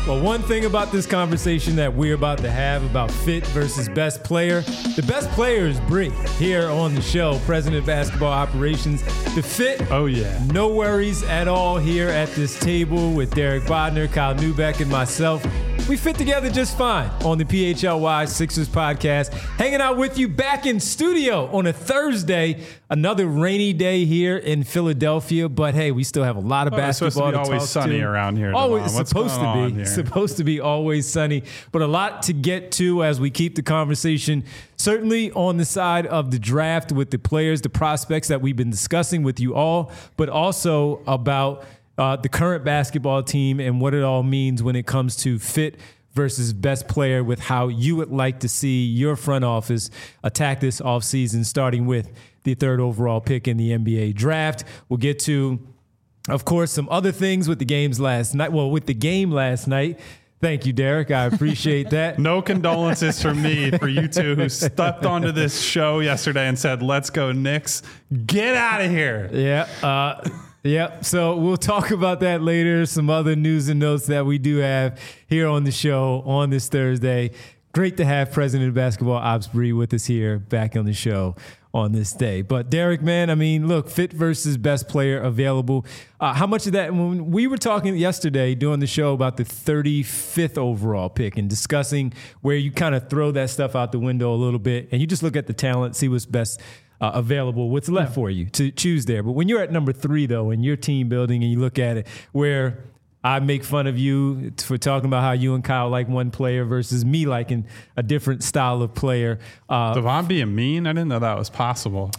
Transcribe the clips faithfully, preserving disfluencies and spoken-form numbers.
Well, one thing about this conversation that we're about to have about fit versus best player, the best player is Bree here on the show, President of Basketball Operations. The fit, oh yeah, no worries at all here at this table with Derek Bodner, Kyle Neubeck, and myself. We fit together just fine on the P H L Y Sixers podcast, hanging out with you back in studio on a Thursday, another rainy day here in Philadelphia. But hey, we still have a lot of oh, basketball it's supposed to be to always talk sunny to. around here. Always What's supposed to going be. on here? Supposed to be always sunny, but a lot to get to as we keep the conversation certainly on the side of the draft with the players, the prospects that we've been discussing with you all, but also about uh, the current basketball team and what it all means when it comes to fit versus best player, with how you would like to see your front office attack this offseason, starting with the third overall pick in the N B A draft. We'll get to, of course, some other things with the games last night. Well, with the game last night. Thank you, Derek. I appreciate that. No condolences from me for you two who stepped onto this show yesterday and said, let's go Knicks. Get out of here. Yeah. Uh, Yep. So we'll talk about that later. Some other news and notes that we do have here on the show on this Thursday. Great to have President of Basketball Ops Bree with us here back on the show on this day. But Derek, man, I mean, look, fit versus best player available. Uh, how much of that, when we were talking yesterday doing the show about the thirty-fifth overall pick and discussing where you kind of throw that stuff out the window a little bit and you just look at the talent, see what's best Uh, available, what's left yeah. for you to choose there. But when you're at number three, though, and you're team building and you look at it, where I make fun of you for talking about how you and Kyle like one player versus me liking a different style of player. Uh, Devon being mean? I didn't know that was possible.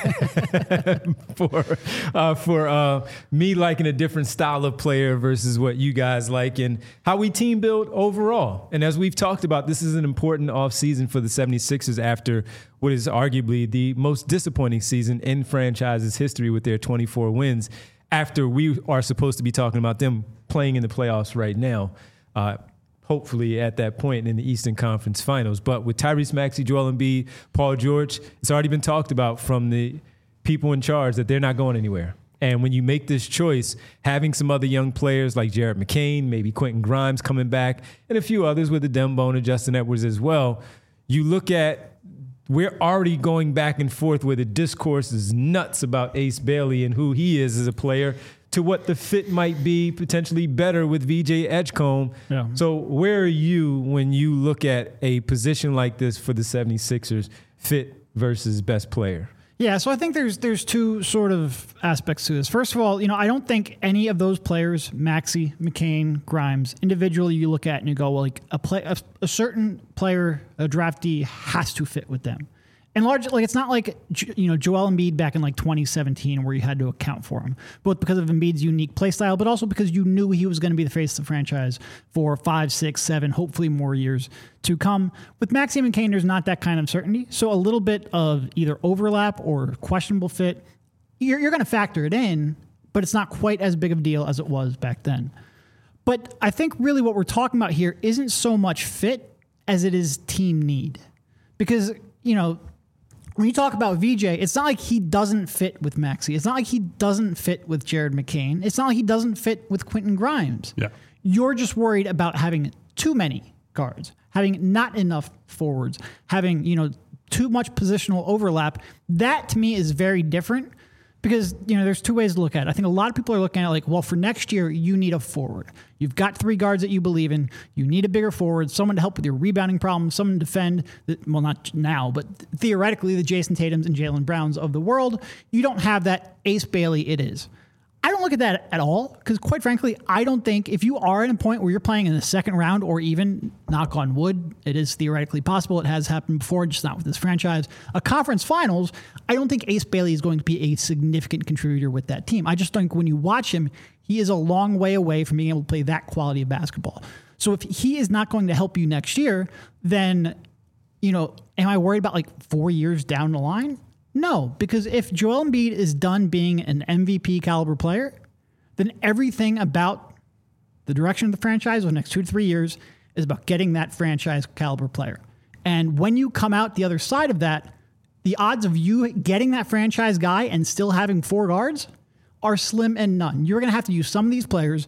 for uh, for uh, me liking a different style of player versus what you guys like, and how we team build overall. And as we've talked about, this is an important offseason for the 76ers after what is arguably the most disappointing season in franchise's history with their twenty-four wins, after we are supposed to be talking about them playing in the playoffs right now, uh, hopefully at that point in the Eastern Conference Finals. But with Tyrese Maxey, Joel Embiid, Paul George, it's already been talked about from the people in charge that they're not going anywhere. And when you make this choice, having some other young players like Jared McCain, maybe Quentin Grimes coming back, and a few others with Adem Bona and Justin Edwards as well, you look at, we're already going back and forth where the discourse is nuts about Ace Bailey and who he is as a player, to what the fit might be potentially better with V J Edgecombe. Yeah. So where are you when you look at a position like this for the 76ers, fit versus best player? Yeah, so I think there's there's two sort of aspects to this. First of all, you know, I don't think any of those players, Maxey, McCain, Grimes, individually you look at and you go, well, like a play, a, a certain player, a draftee has to fit with them. And large, like it's not like, you know, Joel Embiid back in like twenty seventeen where you had to account for him, both because of Embiid's unique play style, but also because you knew he was going to be the face of the franchise for five, six, seven, hopefully more years to come. With Maxey and McCain, there's not that kind of certainty. So a little bit of either overlap or questionable fit, you're, you're going to factor it in, but it's not quite as big of a deal as it was back then. But I think really what we're talking about here isn't so much fit as it is team need. Because, you know, when you talk about V J, it's not like he doesn't fit with Maxey. It's not like he doesn't fit with Jared McCain. It's not like he doesn't fit with Quentin Grimes. Yeah. You're just worried about having too many guards, having not enough forwards, having, you know, too much positional overlap. That to me is very different because, you know, there's two ways to look at it. I think a lot of people are looking at it like, well, for next year, you need a forward. You've got three guards that you believe in. You need a bigger forward, someone to help with your rebounding problem, someone to defend, the, well, not now, but theoretically the Jason Tatums and Jaylen Browns of the world. You don't have that. Ace Bailey it is. I don't look at that at all because, quite frankly, I don't think if you are at a point where you're playing in the second round or even, knock on wood, it is theoretically possible. It has happened before, just not with this franchise. A conference finals, I don't think Ace Bailey is going to be a significant contributor with that team. I just think when you watch him, he is a long way away from being able to play that quality of basketball. So if he is not going to help you next year, then, you know, am I worried about like four years down the line? No, because if Joel Embiid is done being an M V P caliber player, then everything about the direction of the franchise over the next two to three years is about getting that franchise caliber player. And when you come out the other side of that, the odds of you getting that franchise guy and still having four guards are slim and none. You're going to have to use some of these players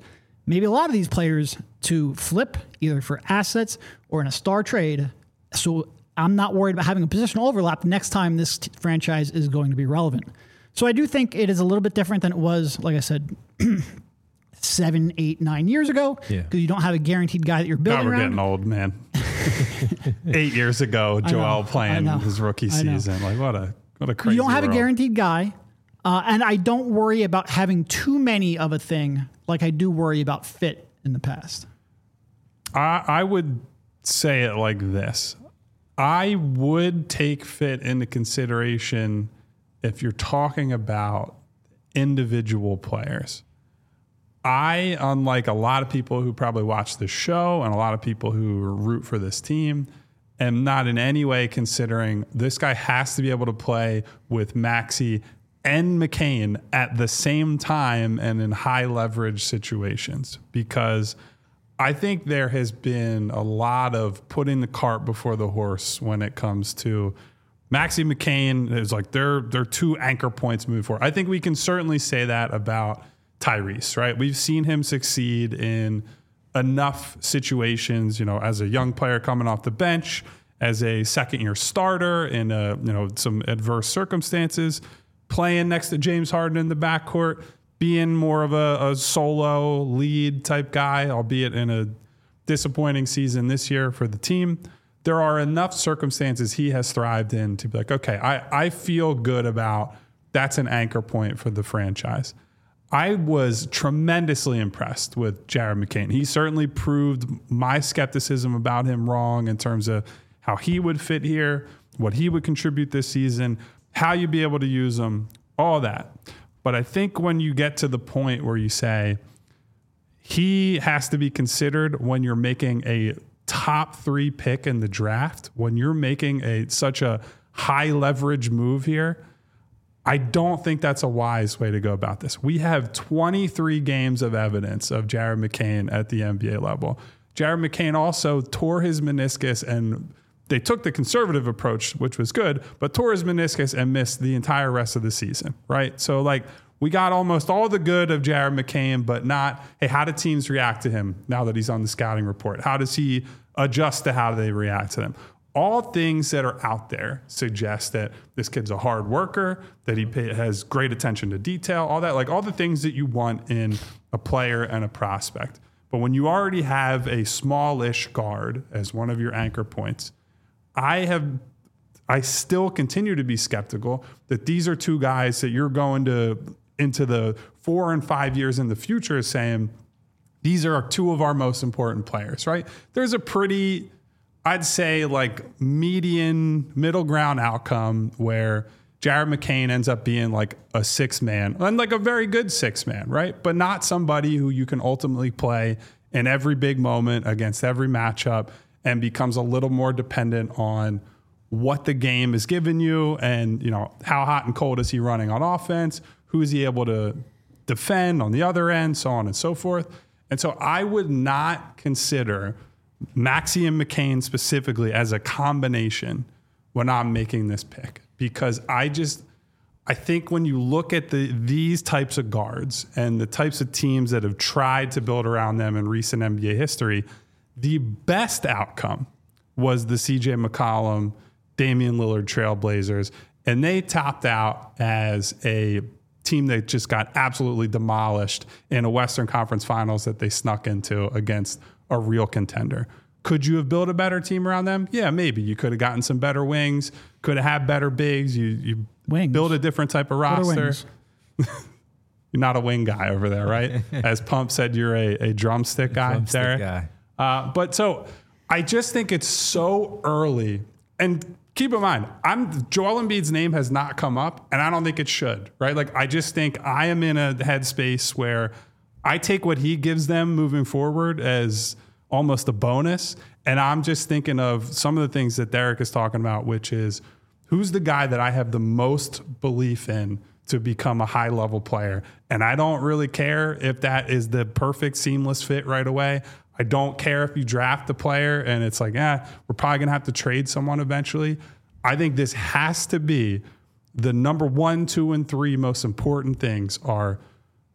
maybe a lot of these players to flip either for assets or in a star trade. So I'm not worried about having a positional overlap next time this t- franchise is going to be relevant. So I do think it is a little bit different than it was, like I said, seven, eight, nine years ago. Yeah. Because you don't have a guaranteed guy that you're building God, we're around. getting old, man. Eight years ago, Joel playing his rookie season. Like, what a what a crazy You don't have world. a guaranteed guy. Uh, and I don't worry about having too many of a thing like I do worry about fit in the past. I, I would say it like this. I would take fit into consideration if you're talking about individual players. I, unlike a lot of people who probably watch this show and a lot of people who root for this team, am not in any way considering this guy has to be able to play with Maxey and McCain at the same time and in high leverage situations, because I think there has been a lot of putting the cart before the horse when it comes to Maxey McCain. Is like they're they're two anchor points moving forward. I think we can certainly say that about Tyrese, right? We've seen him succeed in enough situations, you know, as a young player coming off the bench, as a second year starter in a, you know, some adverse circumstances, playing next to James Harden in the backcourt, being more of a, a solo lead type guy, albeit in a disappointing season this year for the team. There are enough circumstances he has thrived in to be like, okay, I, I feel good about that's an anchor point for the franchise. I was tremendously impressed with Jared McCain. He certainly proved my skepticism about him wrong in terms of how he would fit here, what he would contribute this season, how you'd be able to use him, all that. But I think when you get to the point where you say he has to be considered when you're making a top three pick in the draft, when you're making a such a high leverage move here, I don't think that's a wise way to go about this. We have twenty-three games of evidence of Jared McCain at the N B A level. Jared McCain also tore his meniscus, and they took the conservative approach, which was good, but tore his meniscus and missed the entire rest of the season, right? So like we got almost all the good of Jared McCain, but not, hey, how do teams react to him now that he's on the scouting report? How does he adjust to how they react to them? All things that are out there suggest that this kid's a hard worker, that he pay, has great attention to detail, all that, like all the things that you want in a player and a prospect. But when you already have a smallish guard as one of your anchor points, I have, I still continue to be skeptical that these are two guys that you're going to into the four and five years in the future saying these are two of our most important players, right? There's a pretty, I'd say like median middle ground outcome where Jared McCain ends up being like a six man and like a very good six man, right? But not somebody who you can ultimately play in every big moment against every matchup and becomes a little more dependent on what the game is giving you and, you know, how hot and cold is he running on offense? Who is he able to defend on the other end, so on and so forth. And so I would not consider Maxey and McCain specifically as a combination when I'm making this pick, because I just, I think when you look at the these types of guards and the types of teams that have tried to build around them in recent N B A history, the best outcome was the C J McCollum, Damian Lillard Trailblazers, and they topped out as a team that just got absolutely demolished in a Western Conference Finals that they snuck into against a real contender. Could you have built a better team around them? Yeah, maybe. You could have gotten some better wings, could have had better bigs. You you wings. build a different type of roster. You're not a wing guy over there, right? As Pump said, you're a, a drumstick guy, drumstick Derek. guy. Uh, but so I just think it's so early. And keep in mind, I'm Joel Embiid's name has not come up, and I don't think it should, right? Like, I just think I am in a headspace where I take what he gives them moving forward as almost a bonus, and I'm just thinking of some of the things that Derek is talking about, which is who's the guy that I have the most belief in to become a high-level player, and I don't really care if that is the perfect seamless fit right away. I don't care if you draft the player and it's like, eh, we're probably going to have to trade someone eventually. I think this has to be the number one, two, and three most important things are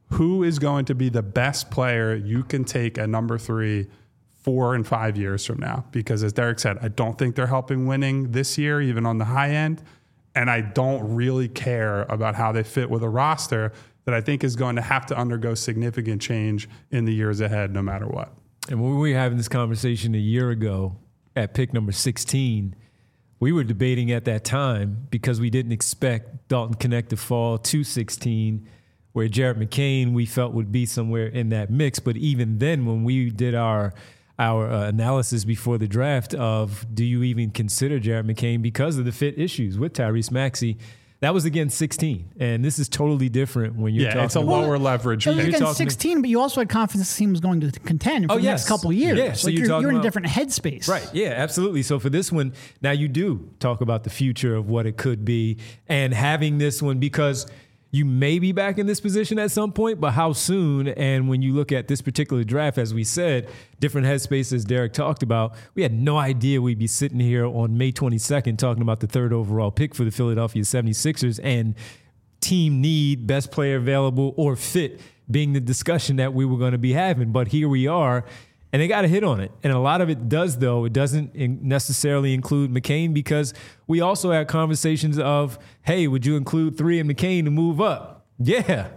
who is going to be the best player you can take at number three four and five years from now? Because as Derek said, I don't think they're helping winning this year, even on the high end. And I don't really care about how they fit with a roster that I think is going to have to undergo significant change in the years ahead, no matter what. And when we were having this conversation a year ago at pick number sixteen, we were debating at that time because we didn't expect Dalton Knecht to fall to sixteen, where Jared McCain we felt would be somewhere in that mix. But even then, when we did our our uh, analysis before the draft of do you even consider Jared McCain because of the fit issues with Tyrese Maxey, that was again sixteen. And this is totally different when you're yeah, talking it's a about, lower leverage. It was pick. against sixteen, but you also had confidence the team was going to contend for Oh, the yes. next couple of years. Yeah, so like you're you're, talking you're in a about- different headspace. Right. Yeah, absolutely. So for this one, now you do talk about the future of what it could be and having this one because you may be back in this position at some point, but how soon? And when you look at this particular draft, as we said, different headspaces Derek talked about, we had no idea we'd be sitting here on May twenty-second talking about the third overall pick for the Philadelphia seventy-sixers and team need, best player available, or fit being the discussion that we were going to be having. But here we are. And they got to hit on it. And a lot of it does, though. It doesn't in necessarily include McCain because we also had conversations of, hey, would you include three and McCain to move up? Yeah.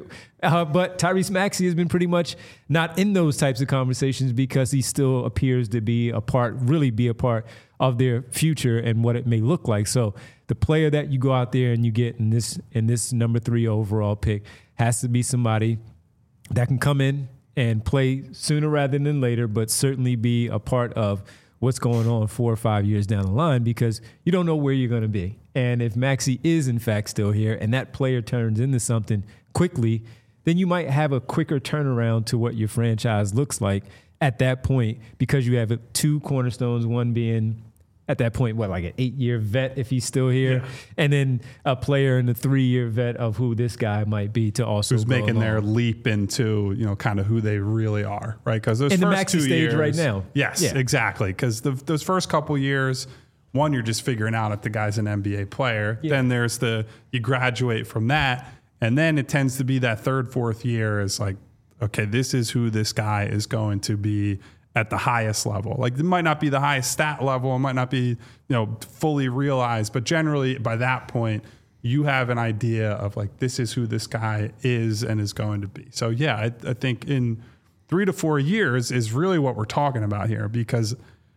uh, but Tyrese Maxey has been pretty much not in those types of conversations because he still appears to be a part, really be a part of their future and what it may look like. So the player that you go out there and you get in this in this number three overall pick has to be somebody that can come in and play sooner rather than later, but certainly be a part of what's going on four or five years down the line because you don't know where you're going to be. And if Maxey is, in fact, still here and that player turns into something quickly, then you might have a quicker turnaround to what your franchise looks like at that point because you have two cornerstones, one being at that point, what, like an eight-year vet if he's still here, yeah. and then a player in the three-year vet of who this guy might be to also who's go making along. their leap into, you know, kind of who they really are, right? Because those in first the Maxey two stage years, right now, yes, yeah. exactly. Because those first couple years, one, you're just figuring out if the guy's an N B A player. Yeah. Then there's the you graduate from that, and then it tends to be that third, fourth year is like, okay, this is who this guy is going to be at the highest level. Like it might not be the highest stat level, it might not be, you know, fully realized, but generally by that point, you have an idea of like, this is who this guy is and is going to be. So yeah, I, I think in three to four years is really what we're talking about here because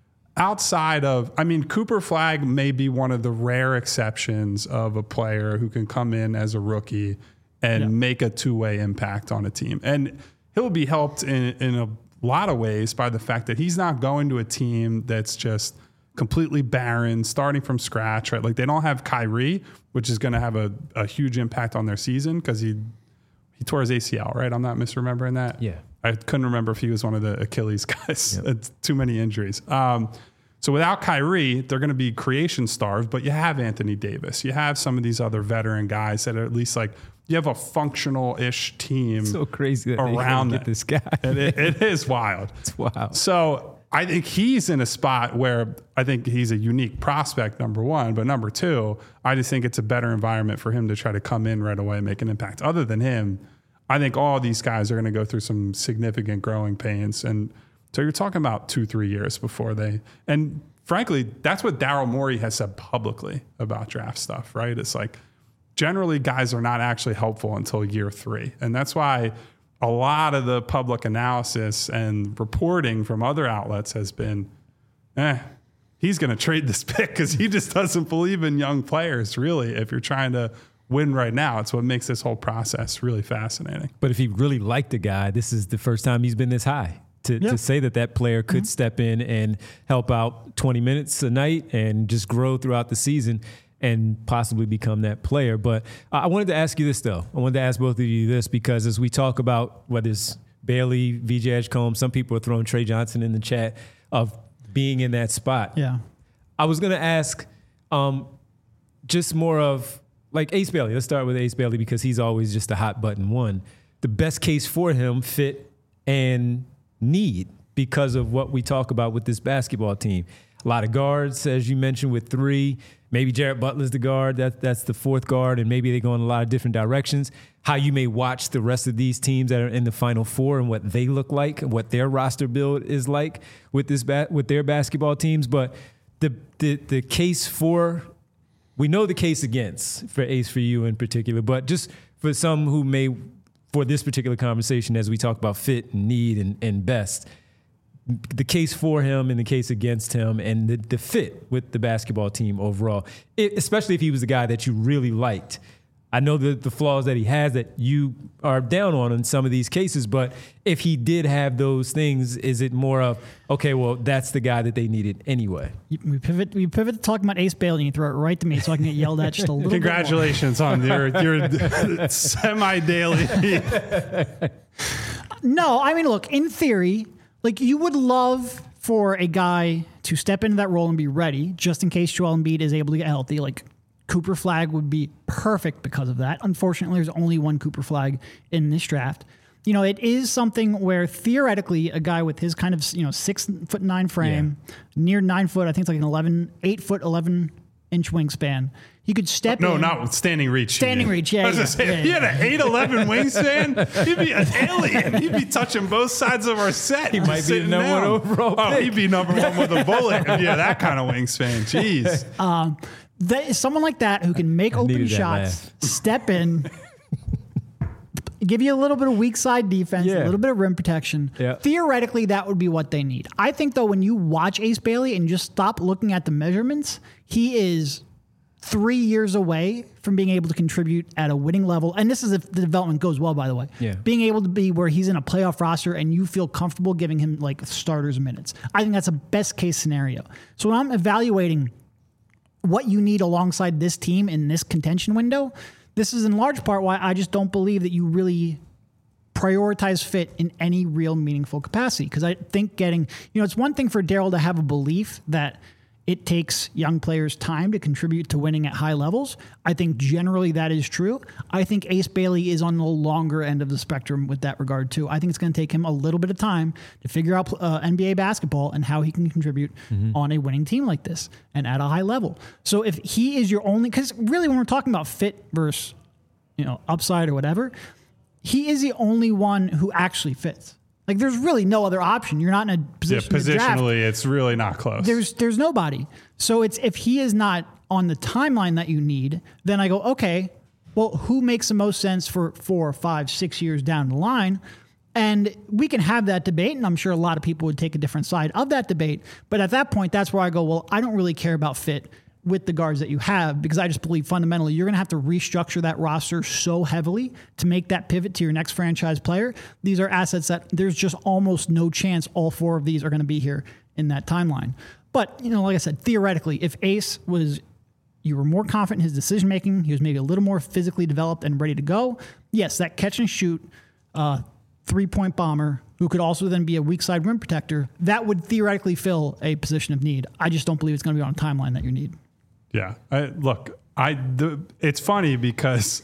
outside of, I mean, Cooper Flagg may be one of the rare exceptions of a player who can come in as a rookie and yeah. make a two-way impact on a team. And he'll be helped in, in a lot of ways by the fact that he's not going to a team that's just completely barren, starting from scratch, right? Like they don't have Kyrie, which is going to have a, a huge impact on their season because he he tore his A C L, right? I'm not misremembering that. Yeah. I couldn't remember if he was one of the Achilles guys. Yep. It's too many injuries. Um, so without Kyrie, they're going to be creation starved, but you have Anthony Davis. You have some of these other veteran guys that are at least like, you have a functional-ish team. It's so crazy that around they get this guy. it, it is wild. It's wild. So I think he's in a spot where I think he's a unique prospect, number one. But number two, I just think it's a better environment for him to try to come in right away and make an impact. Other than him, I think all these guys are going to go through some significant growing pains. And so you're talking about two, three years before they – and frankly, that's what Daryl Morey has said publicly about draft stuff, right? It's like – generally, guys are not actually helpful until year three. And that's why a lot of the public analysis and reporting from other outlets has been, eh, he's going to trade this pick because he just doesn't believe in young players, really, if you're trying to win right now. It's what makes this whole process really fascinating. But if he really liked the guy, this is the first time he's been this high. To, yep. to say that that player could mm-hmm. step in and help out twenty minutes a night and just grow throughout the season and possibly become that player. But I wanted to ask you this, though. I wanted to ask both of you this because as we talk about whether it's Bailey, V J Edgecombe, some people are throwing Trey Johnson in the chat of being in that spot. Yeah. I was going to ask um, just more of like Ace Bailey. Let's start with Ace Bailey because he's always just a hot button one. The best case for him, fit and need because of what we talk about with this basketball team. a lot of guards, as you mentioned, with three. Maybe Jared Butler's the guard. That, that's the fourth guard, and maybe they go in a lot of different directions. How you may watch the rest of these teams that are in the Final Four and what they look like, what their roster build is like with this ba- with their basketball teams. But the the the case for, we know the case against for Ace, for you in particular, but just for some who may, for this particular conversation, as we talk about fit and need and, and best, the case for him and the case against him and the, the fit with the basketball team overall, it, especially if he was the guy that you really liked. I know the, the flaws that he has that you are down on in some of these cases, but if he did have those things, is it more of, okay, well, that's the guy that they needed anyway? We pivot we pivot to talking about Ace Bailey and you throw it right to me so I can get yelled at just a little Congratulations bit more. on your, your semi-daily. No, I mean, look, in theory, like you would love for a guy to step into that role and be ready just in case Joel Embiid is able to get healthy. Like Cooper Flagg would be perfect because of that. Unfortunately, there's only one Cooper Flagg in this draft. You know, it is something where theoretically a guy with his kind of, you know, six foot nine frame, yeah. near nine foot, I think it's like an eleven, eight foot, eleven inch wingspan. He could step no, in. No, not standing reach. Standing reach, yeah. yeah, say, yeah if he had an eight eleven wingspan, he'd be an alien. He'd be touching both sides of our set. He might be the number one overall Oh, pick. he'd be number one with a bullet if he had that kind of wingspan. Jeez. Um, that is someone like that who can make I open shots, step in, give you a little bit of weak side defense, Yeah. a little bit of rim protection. Yeah. Theoretically, that would be what they need. I think, though, when you watch Ace Bailey and just stop looking at the measurements, he is three years away from being able to contribute at a winning level. And this is if the development goes well, by the way. Yeah. Being able to be where he's in a playoff roster and you feel comfortable giving him like starters minutes. I think that's a best case scenario. So when I'm evaluating what you need alongside this team in this contention window, this is in large part why I just don't believe that you really prioritize fit in any real meaningful capacity. Because I think getting, you know, it's one thing for Daryl to have a belief that it takes young players time to contribute to winning at high levels. I think generally that is true. I think Ace Bailey is on the longer end of the spectrum with that regard too. I think it's going to take him a little bit of time to figure out uh, N B A basketball and how he can contribute mm-hmm. on a winning team like this and at a high level. So if he is your only, because really when we're talking about fit versus, you know, upside or whatever, he is the only one who actually fits. Like, there's really no other option. You're not in a position yeah, to draft. Positionally, it's really not close. There's there's nobody. So it's if he is not on the timeline that you need, then I go, okay, well, who makes the most sense for four, five, six years down the line? And we can have that debate, and I'm sure a lot of people would take a different side of that debate. But at that point, that's where I go, well, I don't really care about fit with the guards that you have, because I just believe fundamentally you're going to have to restructure that roster so heavily to make that pivot to your next franchise player. These are assets that there's just almost no chance all four of these are going to be here in that timeline. But, you know, like I said, theoretically, if Ace was, you were more confident in his decision-making, he was maybe a little more physically developed and ready to go, yes, that catch and shoot uh, three-point bomber who could also then be a weak side rim protector, that would theoretically fill a position of need. I just don't believe it's going to be on a timeline that you need. Yeah. I, look, I the, it's funny because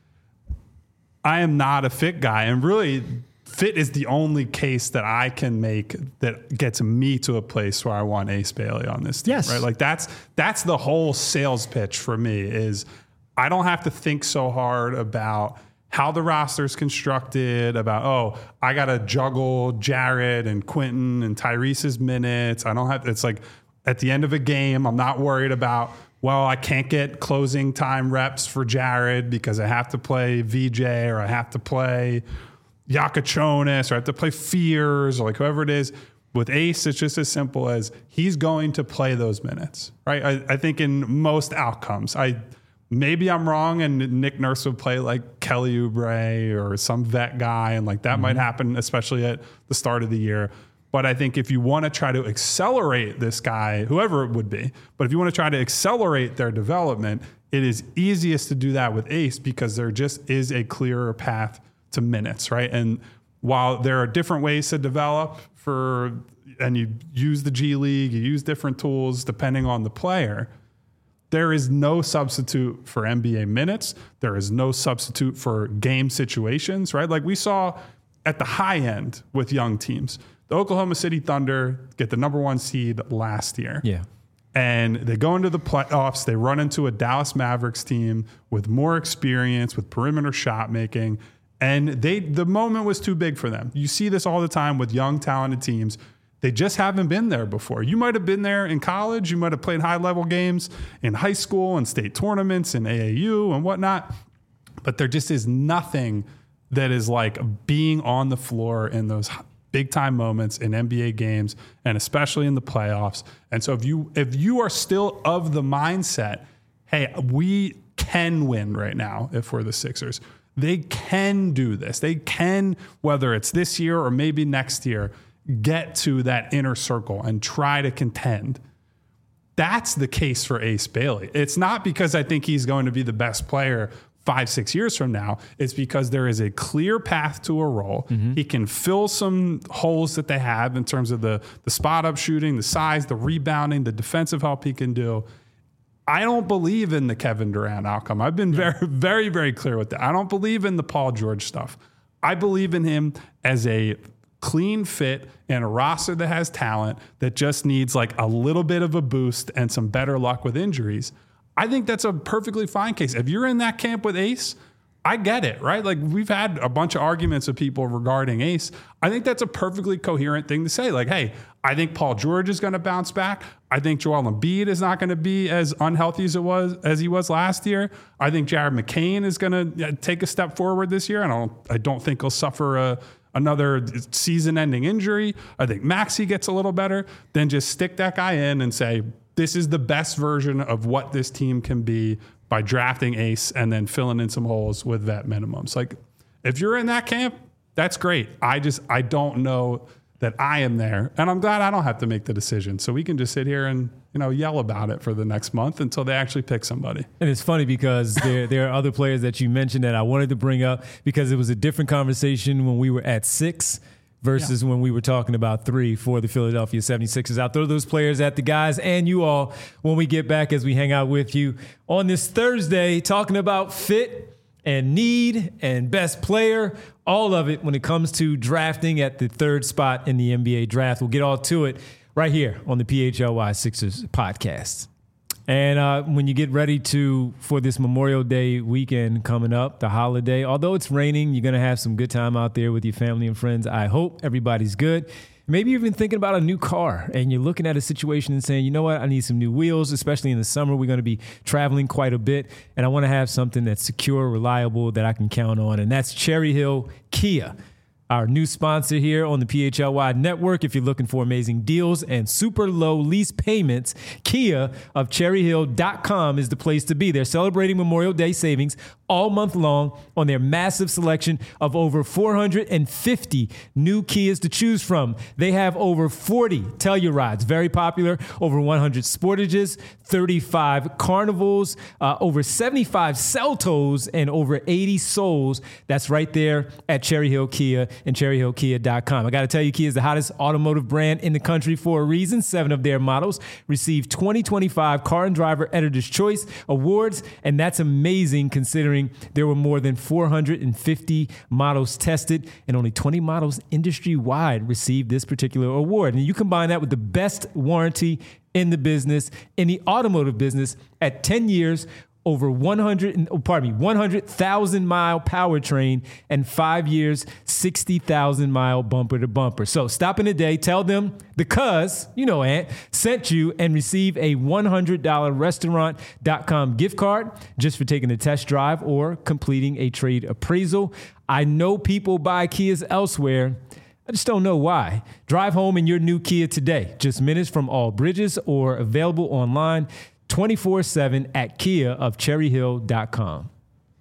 I am not a fit guy, and really fit is the only case that I can make that gets me to a place where I want Ace Bailey on this team. Yes. Right? Like that's that's the whole sales pitch for me is I don't have to think so hard about how the roster's constructed, about, oh, I got to juggle Jared and Quentin and Tyrese's minutes. I don't have, it's like at the end of a game, I'm not worried about, well, I can't get closing time reps for Jared because I have to play V J or I have to play Yakachonis or I have to play Fears or like whoever it is. With Ace, it's just as simple as he's going to play those minutes, right? I, I think in most outcomes, I maybe I'm wrong and Nick Nurse would play like Kelly Oubre or some vet guy, and like that mm-hmm. might happen, especially at the start of the year. But I think if you want to try to accelerate this guy, whoever it would be, but if you want to try to accelerate their development, it is easiest to do that with Ace because there just is a clearer path to minutes, right? And while there are different ways to develop for, and you use the G League, you use different tools depending on the player, there is no substitute for N B A minutes. There is no substitute for game situations, right? Like we saw at the high end with young teams, the Oklahoma City Thunder get the number one seed last year. Yeah. And they go into the playoffs. They run into a Dallas Mavericks team with more experience, with perimeter shot making. And they the moment was too big for them. You see this all the time with young, talented teams. They just haven't been there before. You might have been there in college. You might have played high-level games in high school and state tournaments and A A U and whatnot. But there just is nothing that is like being on the floor in those big-time moments in N B A games, and especially in the playoffs. And so if you if you are still of the mindset, hey, we can win right now if we're the Sixers. They can do this. They can, whether it's this year or maybe next year, get to that inner circle and try to contend. That's the case for Ace Bailey. It's not because I think he's going to be the best player five, six years from now. It's because there is a clear path to a role. Mm-hmm. He can fill some holes that they have in terms of the, the spot up shooting, the size, the rebounding, the defensive help he can do. I don't believe in the Kevin Durant outcome. I've been very, very, very clear with that. I don't believe in the Paul George stuff. I believe in him as a clean fit in a roster that has talent that just needs like a little bit of a boost and some better luck with injuries. I think that's a perfectly fine case. If you're in that camp with Ace, I get it, right? Like we've had a bunch of arguments with people regarding Ace. I think that's a perfectly coherent thing to say. Like, hey, I think Paul George is going to bounce back. I think Joel Embiid is not going to be as unhealthy as it was as he was last year. I think Jared McCain is going to take a step forward this year. I don't. I don't think he'll suffer a, another season-ending injury. I think Maxey gets a little better. Then just stick that guy in and say, this is the best version of what this team can be by drafting Ace and then filling in some holes with vet minimums. Like, if you're in that camp, that's great. I just, I don't know that I am there. And I'm glad I don't have to make the decision. So we can just sit here and, you know, yell about it for the next month until they actually pick somebody. And it's funny because there, there are other players that you mentioned that I wanted to bring up because it was a different conversation when we were at six versus yeah. when we were talking about three for the Philadelphia seventy-sixers. I'll throw those players at the guys and you all when we get back as we hang out with you on this Thursday, talking about fit and need and best player, all of it when it comes to drafting at the third spot in the N B A draft. We'll get all to it right here on the P H L Y Sixers podcast. And uh, when you get ready to for this Memorial Day weekend coming up, the holiday, although it's raining, you're going to have some good time out there with your family and friends. I hope everybody's good. Maybe you've been thinking about a new car and you're looking at a situation and saying, you know what, I need some new wheels, especially in the summer. We're going to be traveling quite a bit. And I want to have something that's secure, reliable, that I can count on. And that's Cherry Hill Kia, our new sponsor here on the P H L Y network. If you're looking for amazing deals and super low lease payments, Kia of cherry hill dot com is the place to be. They're celebrating Memorial Day savings all month long on their massive selection of over four hundred fifty new Kias to choose from. They have over forty Tellurides, very popular, over one hundred Sportages, thirty-five Carnivals, uh, over seventy-five Seltos, and over eighty Souls. That's right there at Cherry Hill Kia and cherry hill kia dot com. I got to tell you, Kia is the hottest automotive brand in the country for a reason. Seven of their models received twenty twenty-five Car and Driver Editor's Choice Awards, and that's amazing considering there were more than four hundred fifty models tested, and only twenty models industry-wide received this particular award. And you combine that with the best warranty in the business, in the automotive business, at ten years, over one hundred, oh, pardon me, one hundred thousand mile powertrain, and five years, sixty thousand mile bumper to bumper. So stop in today, tell them the cuz, you know, Ant, sent you and receive a one hundred dollars restaurant dot com gift card just for taking a test drive or completing a trade appraisal. I know people buy Kias elsewhere. I just don't know why. Drive home in your new Kia today. Just minutes from all bridges or available online twenty-four seven at kia of cherry hill dot com.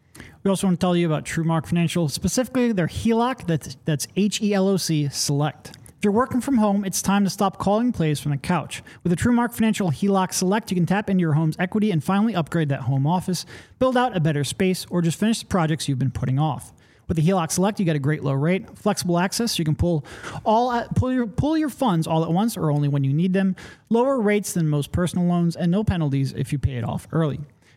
We also want to tell you about TrueMark Financial, specifically their H E L O C, that's, that's H E L O C Select. If you're working from home, it's time to stop calling plays from the couch. With the TrueMark Financial H E L O C Select, you can tap into your home's equity and finally upgrade that home office, build out a better space, or just finish the projects you've been putting off. With the H E L O C Select, you get a great low rate, flexible access. You can pull all pull your pull your funds all at once or only when you need them. Lower rates than most personal loans and no penalties if you pay it off early.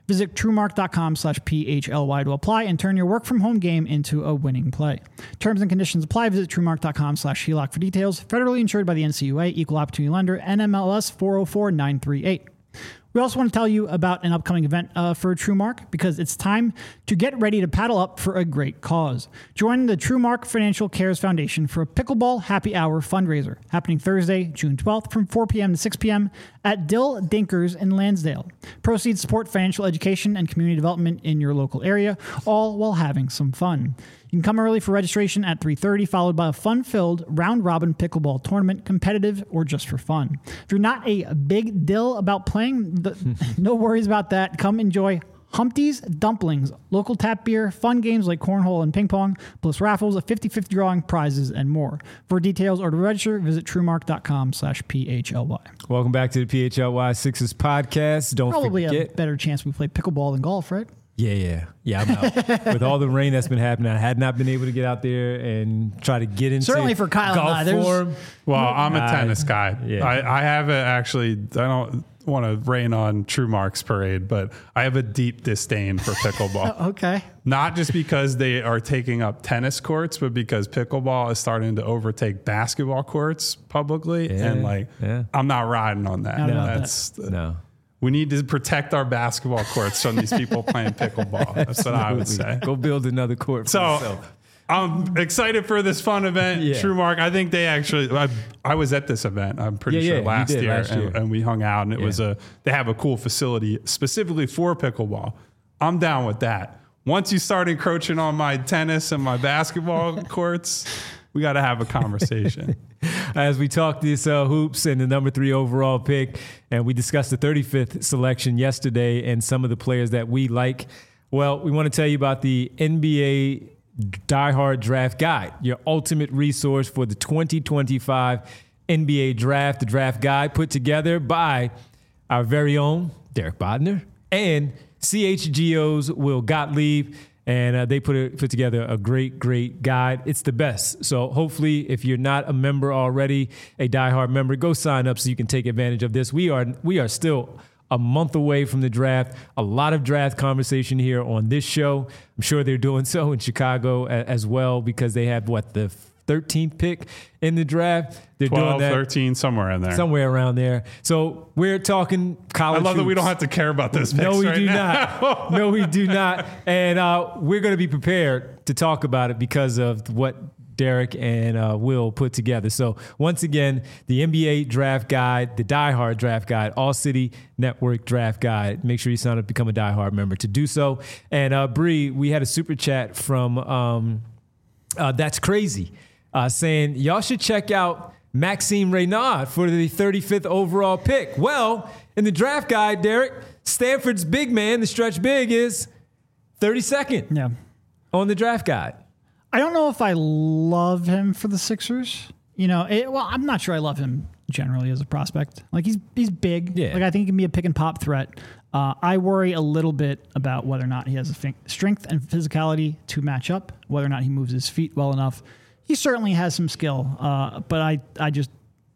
Visit truemark.com slash PHLY to apply and turn your work from home game into a winning play. Terms and conditions apply. Visit truemark.com slash HELOC for details. Federally insured by the N C U A, Equal Opportunity Lender, N M L S four oh four nine three eight. We also want to tell you about an upcoming event uh, for TrueMark because it's time to get ready to paddle up for a great cause. Join the TrueMark Financial Cares Foundation for a pickleball happy hour fundraiser happening Thursday, June twelfth from four p.m. to six p.m. at Dill Dinkers in Lansdale. Proceeds support financial education and community development in your local area, all while having some fun. You can come early for registration at three thirty, followed by a fun-filled round-robin pickleball tournament, competitive or just for fun. If you're not a big deal about playing, the, no worries about that. Come enjoy Humpty's Dumplings, local tap beer, fun games like cornhole and ping pong, plus raffles, a fifty-fifty drawing, prizes, and more. For details or to register, visit truemark.com slash PHLY. Welcome back to the P H L Y Sixers podcast. Don't Probably forget. a better chance we play pickleball than golf, right? Yeah, yeah. Yeah, I'm out. With all the rain that's been happening, I had not been able to get out there and try to get into Certainly for Kyle golf and I, there's- form. Well, I'm a I- tennis guy. yeah. I, I have a, actually, I don't want to rain on TrueMark's parade, but I have a deep disdain for pickleball. Okay. Not just because they are taking up tennis courts, but because pickleball is starting to overtake basketball courts publicly. Yeah, and like, yeah. I'm not riding on that. Not about that. That's No. We need to protect our basketball courts from these people playing pickleball. That's what I would say. Go build another court for So yourself. I'm excited for this fun event. Yeah. TrueMark, I think they actually, I, I was at this event, I'm pretty Yeah, sure yeah, you last, did year, last year. And, and we hung out and it Yeah. was a, they have a cool facility specifically for pickleball. I'm down with that. Once you start encroaching on my tennis and my basketball courts, we got to have a conversation. As we talk this uh, hoops and the number three overall pick, and we discussed the thirty-fifth selection yesterday and some of the players that we like. Well, we want to tell you about the N B A Diehard Draft Guide, your ultimate resource for the twenty twenty-five N B A Draft. The draft guide put together by our very own Derek Bodner and C H G O's Will Gottlieb. And uh, they put a, put together a great, great guide. It's the best. So hopefully, if you're not a member already, a diehard member, go sign up so you can take advantage of this. We are we are still a month away from the draft. A lot of draft conversation here on this show. I'm sure they're doing so in Chicago a, as well because they have what the thirteenth pick in the draft. They're twelve, doing that thirteen, somewhere in there. somewhere around there. So we're talking I college. love that we hoops. don't have to care about this. No, we right do now. not. No, we do not. And uh, we're going to be prepared to talk about it because of what Derek and uh, Will put together. So once again, the N B A Draft Guide, the Die Hard Draft Guide, All City Network Draft Guide. Make sure you sign up to become a Die Hard member to do so. And uh, Bree, we had a super chat from um, uh, That's Crazy uh, saying, y'all should check out Maxime Reynard for the thirty-fifth overall pick. Well, in the draft guide, Derek, Stanford's big man, the stretch big, is thirty-second Yeah. on the draft guide. I don't know if I love him for the Sixers. You know, it, well, I'm not sure I love him generally as a prospect. Like he's he's big. Yeah. Like I think he can be a pick and pop threat. Uh, I worry a little bit about whether or not he has the f- strength and physicality to match up, whether or not he moves his feet well enough. He certainly has some skill, uh, but I I just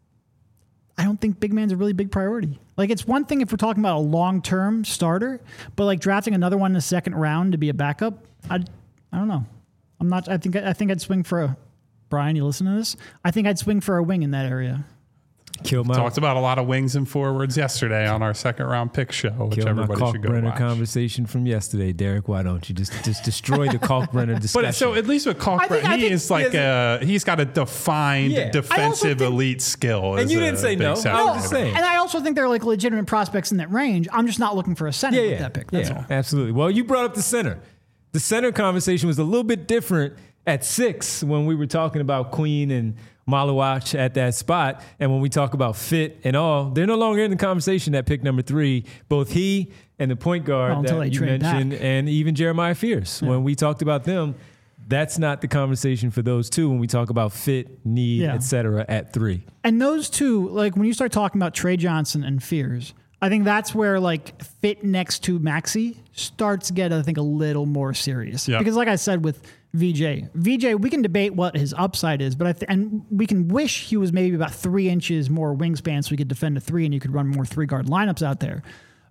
I don't think big man's a really big priority. Like it's one thing if we're talking about a long term starter, but like drafting another one in the second round to be a backup, I I don't know. I'm not. I think. I think I'd swing for a. Brian, you listen to this? I think I'd swing for a wing in that area. Kill my, Talked about a lot of wings and forwards yesterday on our second round pick show, which kill my everybody should go Kalkbrenner watch. conversation from yesterday, Derek. Why don't you just just destroy the Kalkbrenner discussion? But so at least with I think- Kalkbrenner, I he think is like he a, he's got a defined Yeah. defensive think- elite skill. And as you a didn't say big no. center. I was just saying. And I also think they're like legitimate prospects in that range. I'm just not looking for a center yeah, with yeah, that pick. That's yeah, all. absolutely. Well, you brought up the center. The center conversation was a little bit different at six when we were talking about Queen and Malawach at that spot. And when we talk about fit and all, they're no longer in the conversation at pick number three. Both he and the point guard Well, until that they you trade mentioned, back. and even Jeremiah Fierce. When we talked about them, that's not the conversation for those two when we talk about fit, need, Yeah. et cetera at three. And those two, like when you start talking about Trey Johnson and Fears, I think that's where like fit next to Maxey starts to get, I think, a little more serious. Yeah. Because like I said with V J, V J, we can debate what his upside is, but I th- and we can wish he was maybe about three inches more wingspan so we could defend a three and you could run more three guard lineups out there.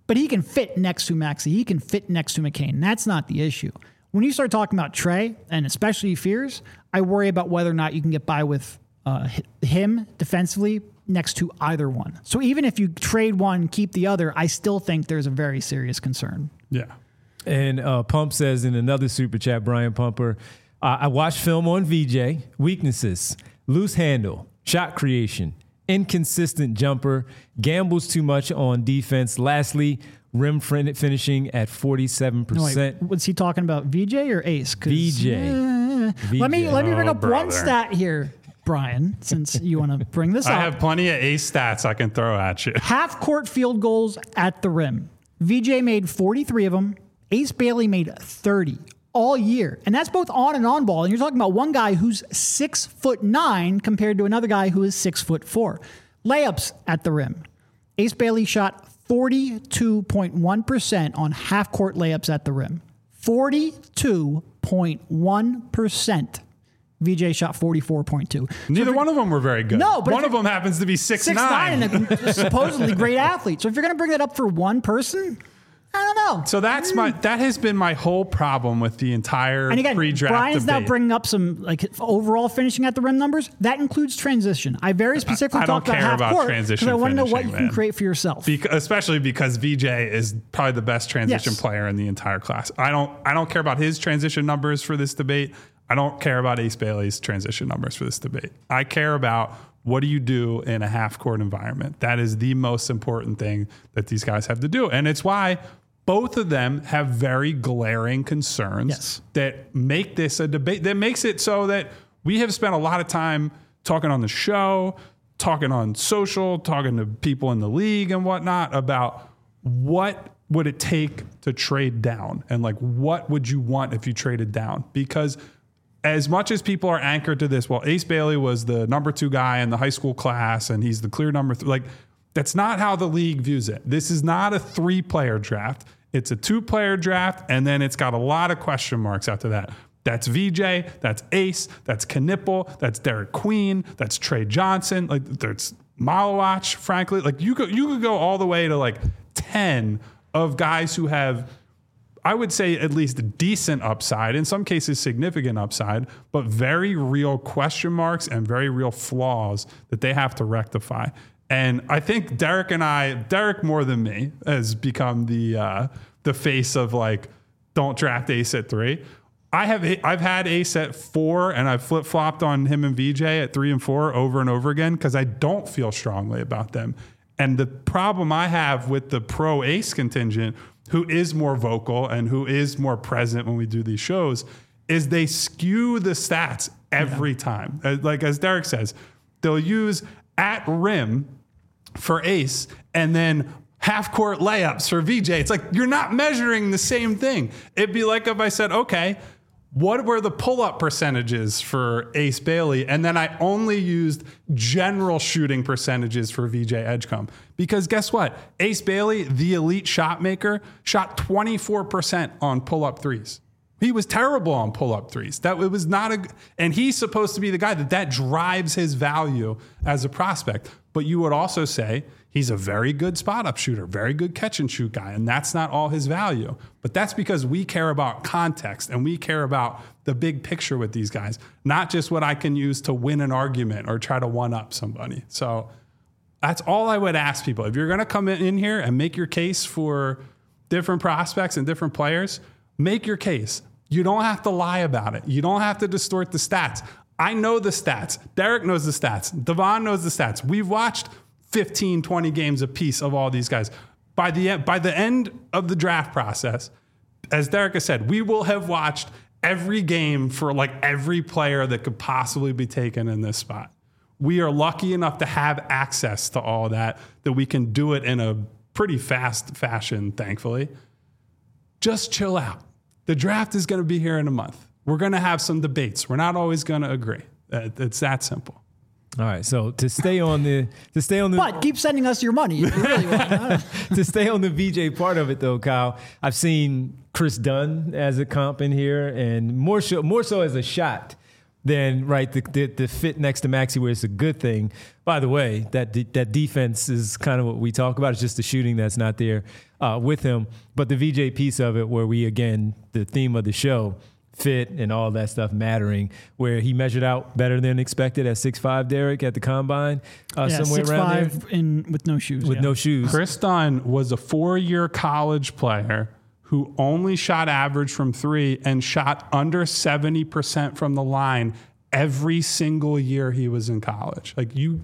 but he can fit next to Maxey. He can fit next to McCain. That's not the issue. When you start talking about Trey, and especially Fears, I worry about whether or not you can get by with uh, him defensively next to either one. So even if you trade one, keep the other, I still think there's a very serious concern. Yeah. And uh, Pump says in another super chat, Brian Pumper, uh, I watched film on V J. Weaknesses: loose handle, shot creation, inconsistent jumper, gambles too much on defense. Lastly, rim finishing at forty-seven percent. No, wait, was he talking about V J or Ace? V J. Uh, V J. Let me let me bring Oh, up brother. one stat here, Brian, since you want to bring this I up. have plenty of ace stats I can throw at you. Half court field goals at the rim. V J made forty-three of them. Ace Bailey made thirty all year. And that's both on and on ball. And you're talking about one guy who's six foot nine compared to another guy who is six foot four. Layups at the rim. Ace Bailey shot forty-two point one percent on half court layups at the rim. forty-two point one percent. V J shot forty-four point two. Neither one of them were very good. No, but one if of them happens to be six, Six nine. nine and a supposedly great athlete. So if you're going to bring that up for one person, I don't know. So that's my that has been my whole problem with the entire And again, pre-draft Brian's debate. now bringing up some like overall finishing at the rim numbers. That includes transition. I very specifically I don't talked about care half about court transition because I want to know what finishing, you can man. create for yourself. Beca- especially because V J is probably the best transition Yes. player in the entire class. I don't I don't care about his transition numbers for this debate. I don't care about Ace Bailey's transition numbers for this debate. I care about what do you do in a half-court environment. That is the most important thing that these guys have to do. And it's why both of them have very glaring concerns Yes. that make this a debate, that makes it so that we have spent a lot of time talking on the show, talking on social, talking to people in the league and whatnot about what would it take to trade down and like what would you want if you traded down? Because as much as people are anchored to this, well, Ace Bailey was the number two guy in the high school class and he's the clear number three. Like, that's not how the league views it. This is not a three-player draft. It's a two-player draft, and then it's got a lot of question marks after that. That's V J, that's Ace, that's Knipple, that's Derek Queen, that's Trey Johnson. Like, there's Malawach, frankly. Like, you could, you could go all the way to, like, ten of guys who have, I would say, at least a decent upside, in some cases significant upside, but very real question marks and very real flaws that they have to rectify. And I think Derek and I, Derek more than me, has become the uh, the face of like, don't draft Ace at three. I have I've had Ace at four, and I've flip flopped on him and V J at three and four over and over again because I don't feel strongly about them. And the problem I have with the pro Ace contingent, who is more vocal and who is more present when we do these shows, is they skew the stats every yeah. time. Like as Derek says, they'll use at rim for Ace and then half court layups for V J. It's like, you're not measuring the same thing. It'd be like if I said, okay, what were the pull-up percentages for Ace Bailey? And then I only used general shooting percentages for V J Edgecombe. Because guess what? Ace Bailey, the elite shot maker, shot twenty-four percent on pull-up threes. He was terrible on pull-up threes. That it was not a, and he's supposed to be the guy that that drives his value as a prospect. But you would also say he's a very good spot-up shooter, very good catch-and-shoot guy, and that's not all his value. But that's because we care about context and we care about the big picture with these guys, not just what I can use to win an argument or try to one-up somebody. So that's all I would ask people. If you're going to come in here and make your case for different prospects and different players, make your case. You don't have to lie about it. You don't have to distort the stats. I know the stats. Derek knows the stats. Devon knows the stats. We've watched fifteen, twenty games apiece of all these guys. By the end, by the end of the draft process, as Derek has said, we will have watched every game for like every player that could possibly be taken in this spot. We are lucky enough to have access to all that, that we can do it in a pretty fast fashion, thankfully. Just chill out. The draft is going to be here in a month. We're going to have some debates. We're not always going to agree. It's that simple. All right. So to stay on the to stay on the But keep sending us your money if you really want. to stay on the V J part of it though, Kyle. I've seen Chris Dunn as a comp in here, and more so more so as a shot. than right the, the the fit next to Maxey, where it's a good thing. By the way, that de- that defense is kind of what we talk about. It's just the shooting that's not there uh, with him. But the V J piece of it, where we again the theme of the show, fit and all that stuff mattering, where he measured out better than expected at six five, Derek, at the combine, uh, yeah, somewhere six, around five there. in with no shoes. With yeah. no shoes. Chris Dunn was a four-year college player who only shot average from three and shot under seventy percent from the line every single year he was in college. Like, you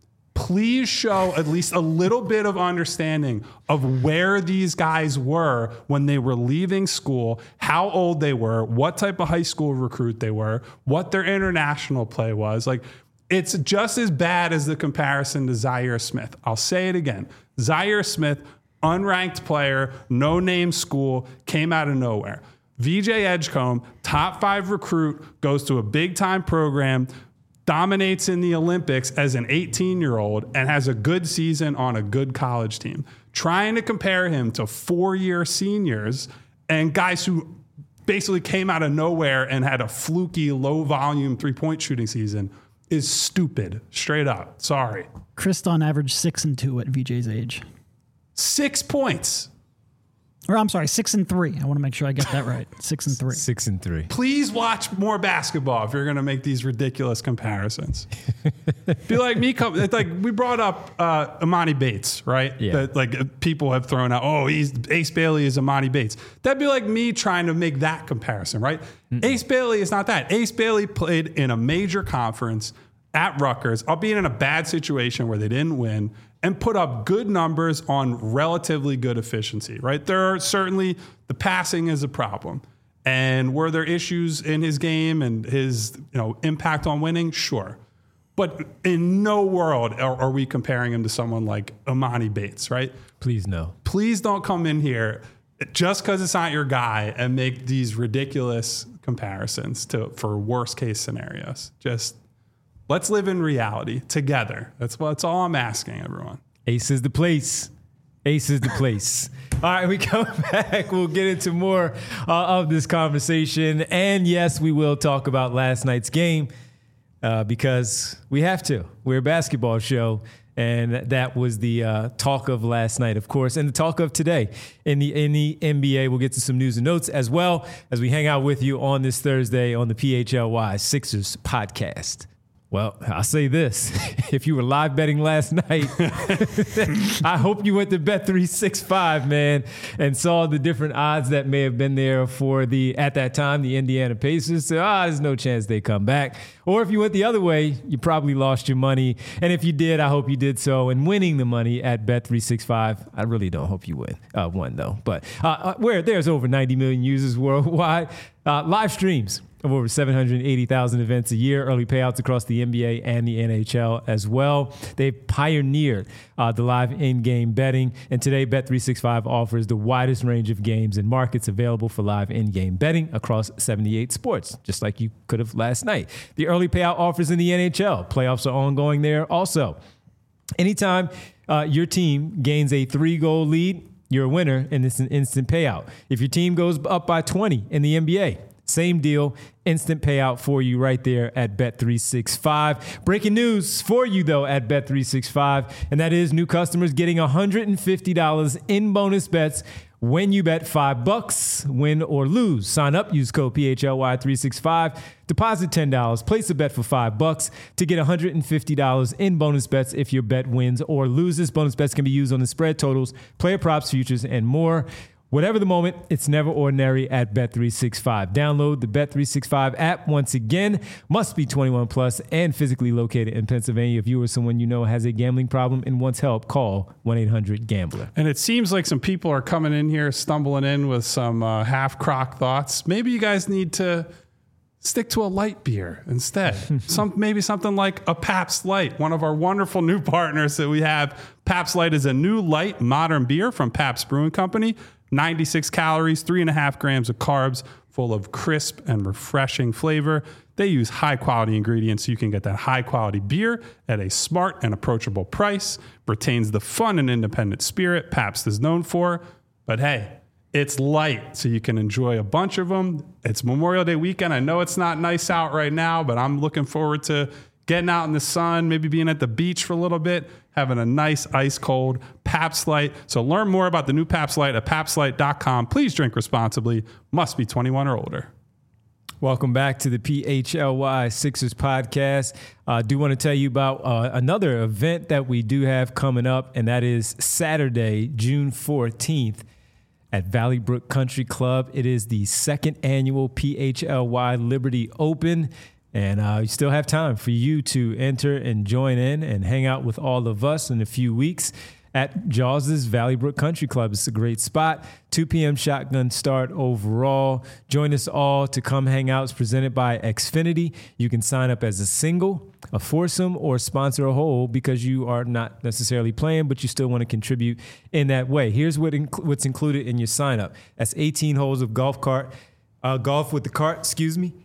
please show at least a little bit of understanding of where these guys were when they were leaving school, how old they were, what type of high school recruit they were, what their international play was. Like, it's just as bad as the comparison to Zaire Smith. I'll say it again. Zaire Smith, unranked player, no-name school, came out of nowhere. V J Edgecombe, top five recruit, goes to a big-time program, dominates in the Olympics as an eighteen-year-old, and has a good season on a good college team. Trying to compare him to four-year seniors and guys who basically came out of nowhere and had a fluky, low-volume three-point shooting season is stupid. Straight up. Sorry. Chris Dunn averaged six and two at V J's age. Six points. Or I'm sorry, six and three. I want to make sure I get that right. Six and three. Six and three. Please watch more basketball if you're going to make these ridiculous comparisons. Be like me. Come, it's like we brought up uh, Imani Bates, right? Yeah. That, like, people have thrown out, oh, he's Ace Bailey is Imani Bates. That'd be like me trying to make that comparison, right? Mm-mm. Ace Bailey is not that. Ace Bailey played in a major conference at Rutgers, albeit in a bad situation where they didn't win, and put up good numbers on relatively good efficiency, right? There are certainly, the passing is a problem. And were there issues in his game and his, you know, impact on winning? Sure. But in no world are, are we comparing him to someone like Imani Bates, right? Please no. Please don't come in here just because it's not your guy and make these ridiculous comparisons to for worst case scenarios. Just let's live in reality together. That's what, that's all I'm asking everyone. Ace is the place. Ace is the place. All right, we come back. We'll get into more uh, of this conversation. And yes, we will talk about last night's game uh, because we have to. We're a basketball show. And that was the uh, talk of last night, of course, and the talk of today in the in the N B A. We'll get to some news and notes as well as we hang out with you on this Thursday on the P H L Y Sixers podcast. Well, I'll say this. If you were live betting last night, I hope you went to Bet three sixty-five, man, and saw the different odds that may have been there for the, at that time, the Indiana Pacers. So, ah, there's no chance they come back. Or if you went the other way, you probably lost your money. And if you did, I hope you did so in winning the money at Bet three sixty-five. I really don't hope you win. Uh, won, though. But uh, where there's over ninety million users worldwide, uh, live streams of over seven hundred eighty thousand events a year, early payouts across the N B A and the N H L as well. They've pioneered uh, the live in-game betting, and today Bet three sixty-five offers the widest range of games and markets available for live in-game betting across seventy-eight sports, just like you could have last night. The early payout offers in the N H L. Playoffs are ongoing there also. Anytime uh, your team gains a three-goal lead, you're a winner, and it's an instant payout. If your team goes up by twenty in the N B A, same deal, instant payout for you right there at Bet three sixty-five. Breaking news for you, though, at Bet three sixty-five, and that is new customers getting one hundred fifty dollars in bonus bets when you bet five bucks, win or lose. Sign up, use code P H L Y three sixty-five, deposit ten dollars, place a bet for five bucks to get one hundred fifty dollars in bonus bets if your bet wins or loses. Bonus bets can be used on the spread totals, player props, futures, and more. Whatever the moment, it's never ordinary at Bet three sixty-five. Download the Bet three sixty-five app. Once again, must be twenty-one plus and physically located in Pennsylvania. If you or someone you know has a gambling problem and wants help, call one eight hundred gambler. And it seems like some people are coming in here, stumbling in with some uh, half-crock thoughts. Maybe you guys need to stick to a light beer instead. Some maybe something like a Pabst Light, one of our wonderful new partners that we have. Pabst Light is a new light modern beer from Pabst Brewing Company. ninety-six calories, three and a half grams of carbs, full of crisp and refreshing flavor. They use high quality ingredients so you can get that high quality beer at a smart and approachable price. Retains the fun and independent spirit Pabst is known for. But hey, It's light, so you can enjoy a bunch of them. It's Memorial Day weekend. I know it's not nice out right now, but I'm looking forward to getting out in the sun, maybe being at the beach for a little bit, having a nice ice cold Pabst Light. So learn more about the new Pabst Light at pabst light dot com. Please drink responsibly. Must be twenty-one or older. Welcome back to the P H L Y Sixers podcast. I uh, do want to tell you about uh, another event that we do have coming up, and that is Saturday, June fourteenth at Valley Brook Country Club. It is the second annual P H L Y Liberty Open, and uh, you still have time for you to enter and join in and hang out with all of us in a few weeks at Jaws's Valley Brook Country Club. It's a great spot. two p.m. shotgun start overall. Join us all to come hang out. It's presented by Xfinity. You can sign up as a single, a foursome, or sponsor a whole because you are not necessarily playing, but you still want to contribute in that way. Here's what inc- what's included in your sign up. That's eighteen holes of golf cart, uh, golf with the cart, excuse me.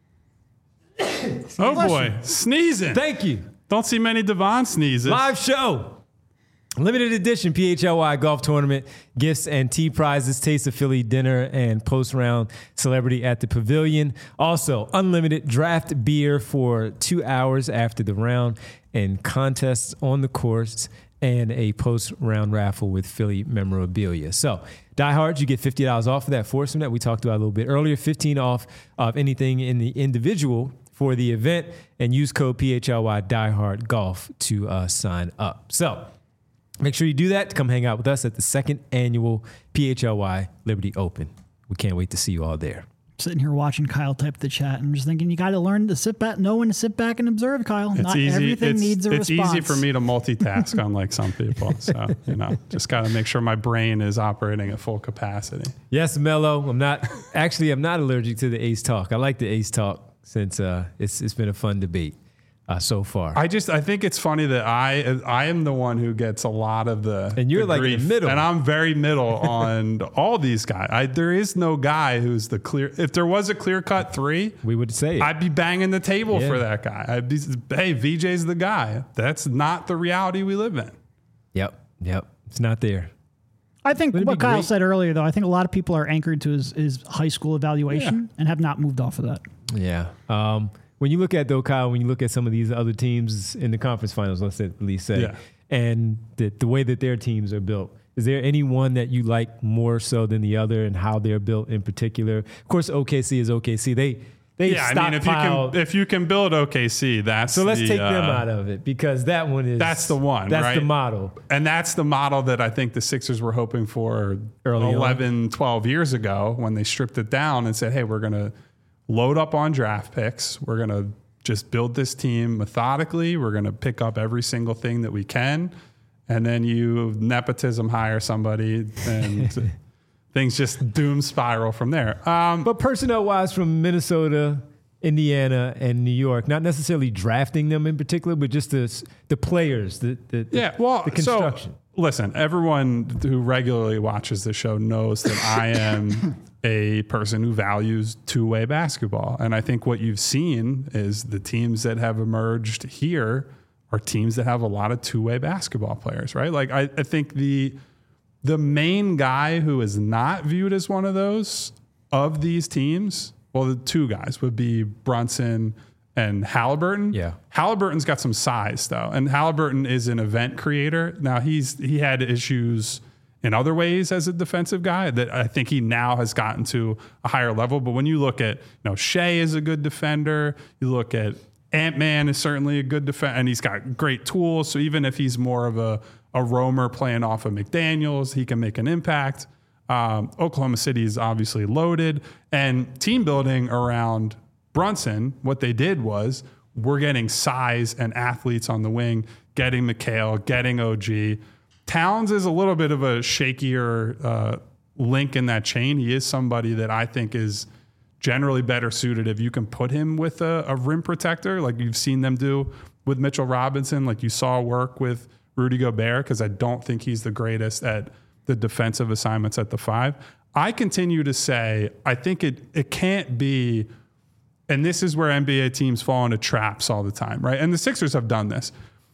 Oh boy, sneezing. Thank you. Don't see many Devon sneezes. Live show. Limited edition P H L Y golf tournament, gifts and tee prizes, Taste of Philly dinner, and post-round celebrity at the pavilion. Also, unlimited draft beer for two hours after the round, and contests on the course, and a post-round raffle with Philly memorabilia. So, diehards, you get fifty dollars off of that foursome that we talked about a little bit earlier, fifteen off of anything in the individual for the event, and use code P H L Y diehard golf to uh, sign up. So, make sure you do that to come hang out with us at the second annual P H L Y Liberty Open. We can't wait to see you all there. Sitting here watching Kyle type the chat and just thinking you got to learn to sit back, know when to sit back and observe, Kyle. It's Not easy. everything it's, needs a it's response. easy for me to multitask unlike some people. So, you know, just got to make sure my brain is operating at full capacity. Yes, Mello. I'm not, actually, I'm not allergic to the Ace Talk. I like the Ace Talk since uh, it's it's been a fun debate. Uh, so far, I just I think it's funny that I I am the one who gets a lot of the and you're the like grief, in the middle, and I'm very middle on all these guys. I, there is no guy who's the clear. If there was a clear cut three, we would say it. I'd be banging the table yeah. for that guy. I'd be, hey, V J's the guy. That's not the reality we live in. Yep, yep, it's not there. I think Wouldn't what it be Kyle great? said earlier, though, I think a lot of people are anchored to his, his high school evaluation Yeah. and have not moved off of that. Yeah. Um, when you look at, though, Kyle, when you look at some of these other teams in the conference finals, let's at least say, Yeah. and the, the way that their teams are built, is there any one that you like more so than the other and how they're built in particular? Of course, O K C is O K C. They they Yeah, I mean, if you can if you can build O K C, that's so let's the, take them uh, out of it because that one is That's the one. That's right? the model. And that's the model that I think the Sixers were hoping for Early eleven, twelve years ago when they stripped it down and said, hey, we're going to load up on draft picks. We're going to just build this team methodically. We're going to pick up every single thing that we can. And then you nepotism hire somebody and things just doom spiral from there. Um, But personnel-wise from Minnesota, Indiana, and New York, not necessarily drafting them in particular, but just the, the players, the, the, Yeah, well, the construction. So, listen, everyone who regularly watches the show knows that I am a person who values two-way basketball. And I think what you've seen is the teams that have emerged here are teams that have a lot of two-way basketball players, right? Like, I, I think the the main guy who is not viewed as one of those of these teams, well, the two guys would be Brunson and Halliburton. Yeah. Halliburton's got some size though. And Halliburton is an event creator. Now he's, he had issues in other ways as a defensive guy that I think he now has gotten to a higher level. But when you look at, you know, Shea is a good defender. You look at Ant-Man is certainly a good defender and he's got great tools. So even if he's more of a, a roamer playing off of McDaniels, he can make an impact. Um, Oklahoma City is obviously loaded, and team building around Brunson, what they did was we're getting size and athletes on the wing, getting McHale, getting O G. Towns is a little bit of a shakier uh, link in that chain. He is somebody that I think is generally better suited if you can put him with a, a rim protector, like you've seen them do with Mitchell Robinson, like you saw work with Rudy Gobert, because I don't think he's the greatest at the defensive assignments at the five. I continue to say, I think it it can't be, and this is where N B A teams fall into traps all the time, right? And the Sixers have done this.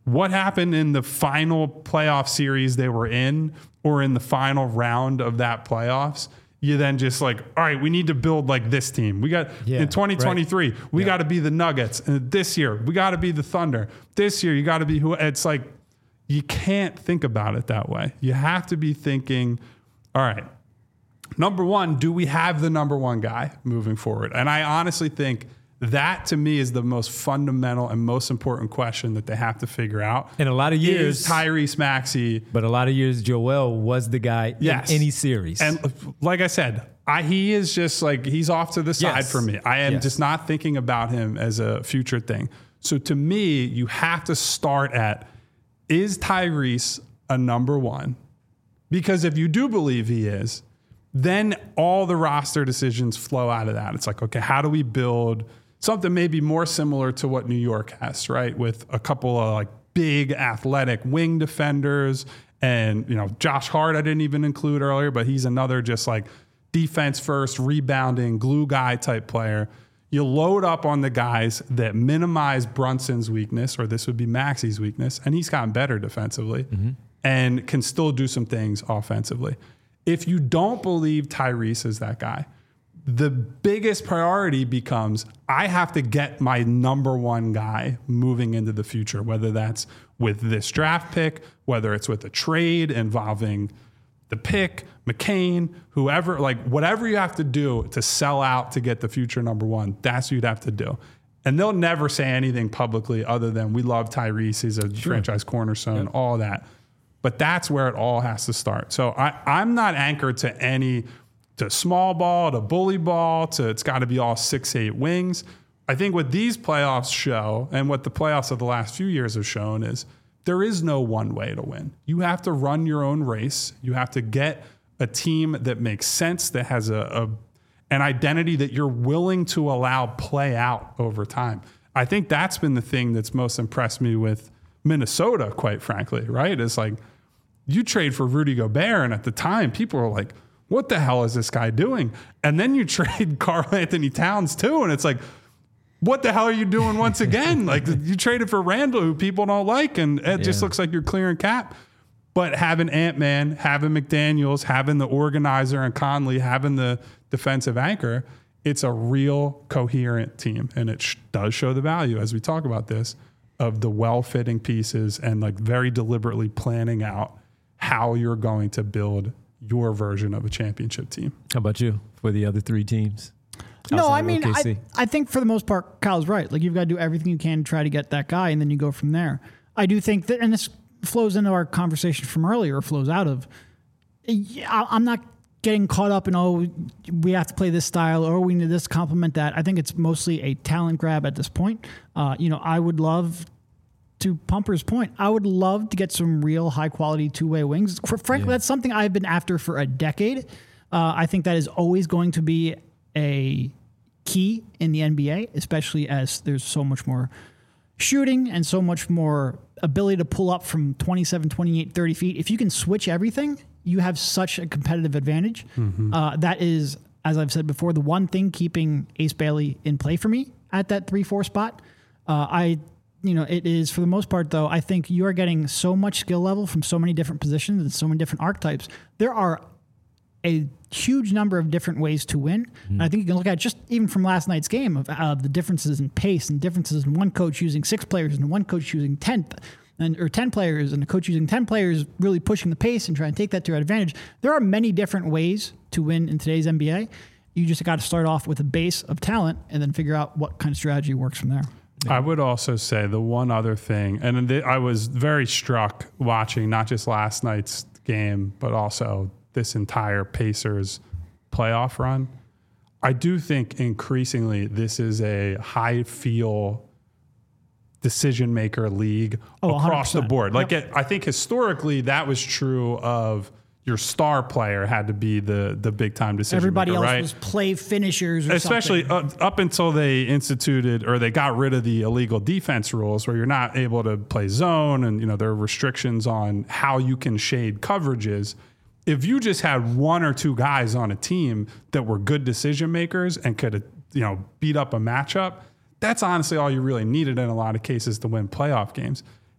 what happened in the final playoff series they were in or in the final round of that playoffs, you then just like, all right, we need to build like this team. We got Yeah, in twenty twenty-three, right. we Yeah. got to be the Nuggets. And this year, we got to be the Thunder. This year, you got to be who. It's like, you can't think about it that way. You have to be thinking, all right, number one, do we have the number one guy moving forward? And I honestly think that to me is the most fundamental and most important question that they have to figure out. In a lot of years, Is Tyrese Maxey. but a lot of years, Joel was the guy Yes. in any series. And like I said, I, he is just like, he's off to the side Yes. for me. I am Yes. just not thinking about him as a future thing. So to me, you have to start at, is Tyrese a number one? Because if you do believe he is, then all the roster decisions flow out of that. It's like, okay, how do we build something maybe more similar to what New York has, right? With a couple of like big athletic wing defenders and, you know, Josh Hart I didn't even include earlier, but he's another just like defense first, rebounding, glue guy type player. You load up on the guys that minimize Brunson's weakness, or this would be Maxey's weakness, and he's gotten better defensively mm-hmm. and can still do some things offensively. If you don't believe Tyrese is that guy, the biggest priority becomes I have to get my number one guy moving into the future, whether that's with this draft pick, whether it's with a trade involving the pick, McCain, whoever, like whatever you have to do to sell out to get the future number one, that's what you'd have to do. And they'll never say anything publicly other than we love Tyrese, he's a sure. franchise cornerstone, yep. all that. But that's where it all has to start. So I, I'm not anchored to any, to small ball, to bully ball, to it's got to be all six, eight wings. I think what these playoffs show and what the playoffs of the last few years have shown is there is no one way to win. You have to run your own race. You have to get a team that makes sense, that has a, a an identity that you're willing to allow play out over time. I think that's been the thing that's most impressed me with Minnesota, quite frankly, right? It's like you trade for Rudy Gobert, and at the time, people were like, what the hell is this guy doing? And then you trade Karl Anthony Towns too, and it's like, what the hell are you doing once again? Like you traded for Randall, who people don't like, and it yeah. just looks like you're clearing cap. But having Ant-Man, having McDaniels, having the organizer and Conley, having the defensive anchor, it's a real coherent team. And it sh- does show the value, as we talk about this, of the well-fitting pieces and like very deliberately planning out how you're going to build your version of a championship team. How about you for the other three teams? No, I mean, I, I think for the most part, Kyle's right. Like, you've got to do everything you can to try to get that guy, and then you go from there. I do think that, and this flows into our conversation from earlier, or flows out of, I'm not getting caught up in, oh, we have to play this style, or we need this to complement that. I think it's mostly a talent grab at this point. Uh, you know, I would love, to Pumper's point, I would love to get some real high-quality two-way wings. For, frankly, yeah. that's something I've been after for a decade. Uh, I think that is always going to be a key in the N B A, especially as there's so much more shooting and so much more ability to pull up from twenty-seven, twenty-eight, thirty feet. If you can switch everything, you have such a competitive advantage. Mm-hmm. Uh, that is, as I've said before, the one thing keeping Ace Bailey in play for me at that three four spot. Uh, I, you know, it is, for the most part, though, I think you are getting so much skill level from so many different positions and so many different archetypes. There are a huge number of different ways to win. Mm-hmm. And I think you can look at just even from last night's game of uh, the differences in pace and differences in one coach using six players and one coach using ten and or ten players and a coach using ten players really pushing the pace and trying to take that to your advantage. There are many different ways to win in today's N B A. You just got to start off with a base of talent and then figure out what kind of strategy works from there. Yeah. I would also say the one other thing, and th- I was very struck watching not just last night's game, but also this entire Pacers playoff run. I do think increasingly this is a high feel decision maker league oh, across one hundred percent the board. Like yep. it, I think historically that was true of your star player had to be the the big time decision Everybody maker, else right? was play finishers or Especially something. Uh, up until they instituted or they got rid of the illegal defense rules where you're not able to play zone and you know there are restrictions on how you can shade coverages. If you just had one or two guys on a team that were good decision makers and could, you know, beat up a matchup, that's honestly all you really needed in a lot of cases to win playoff games.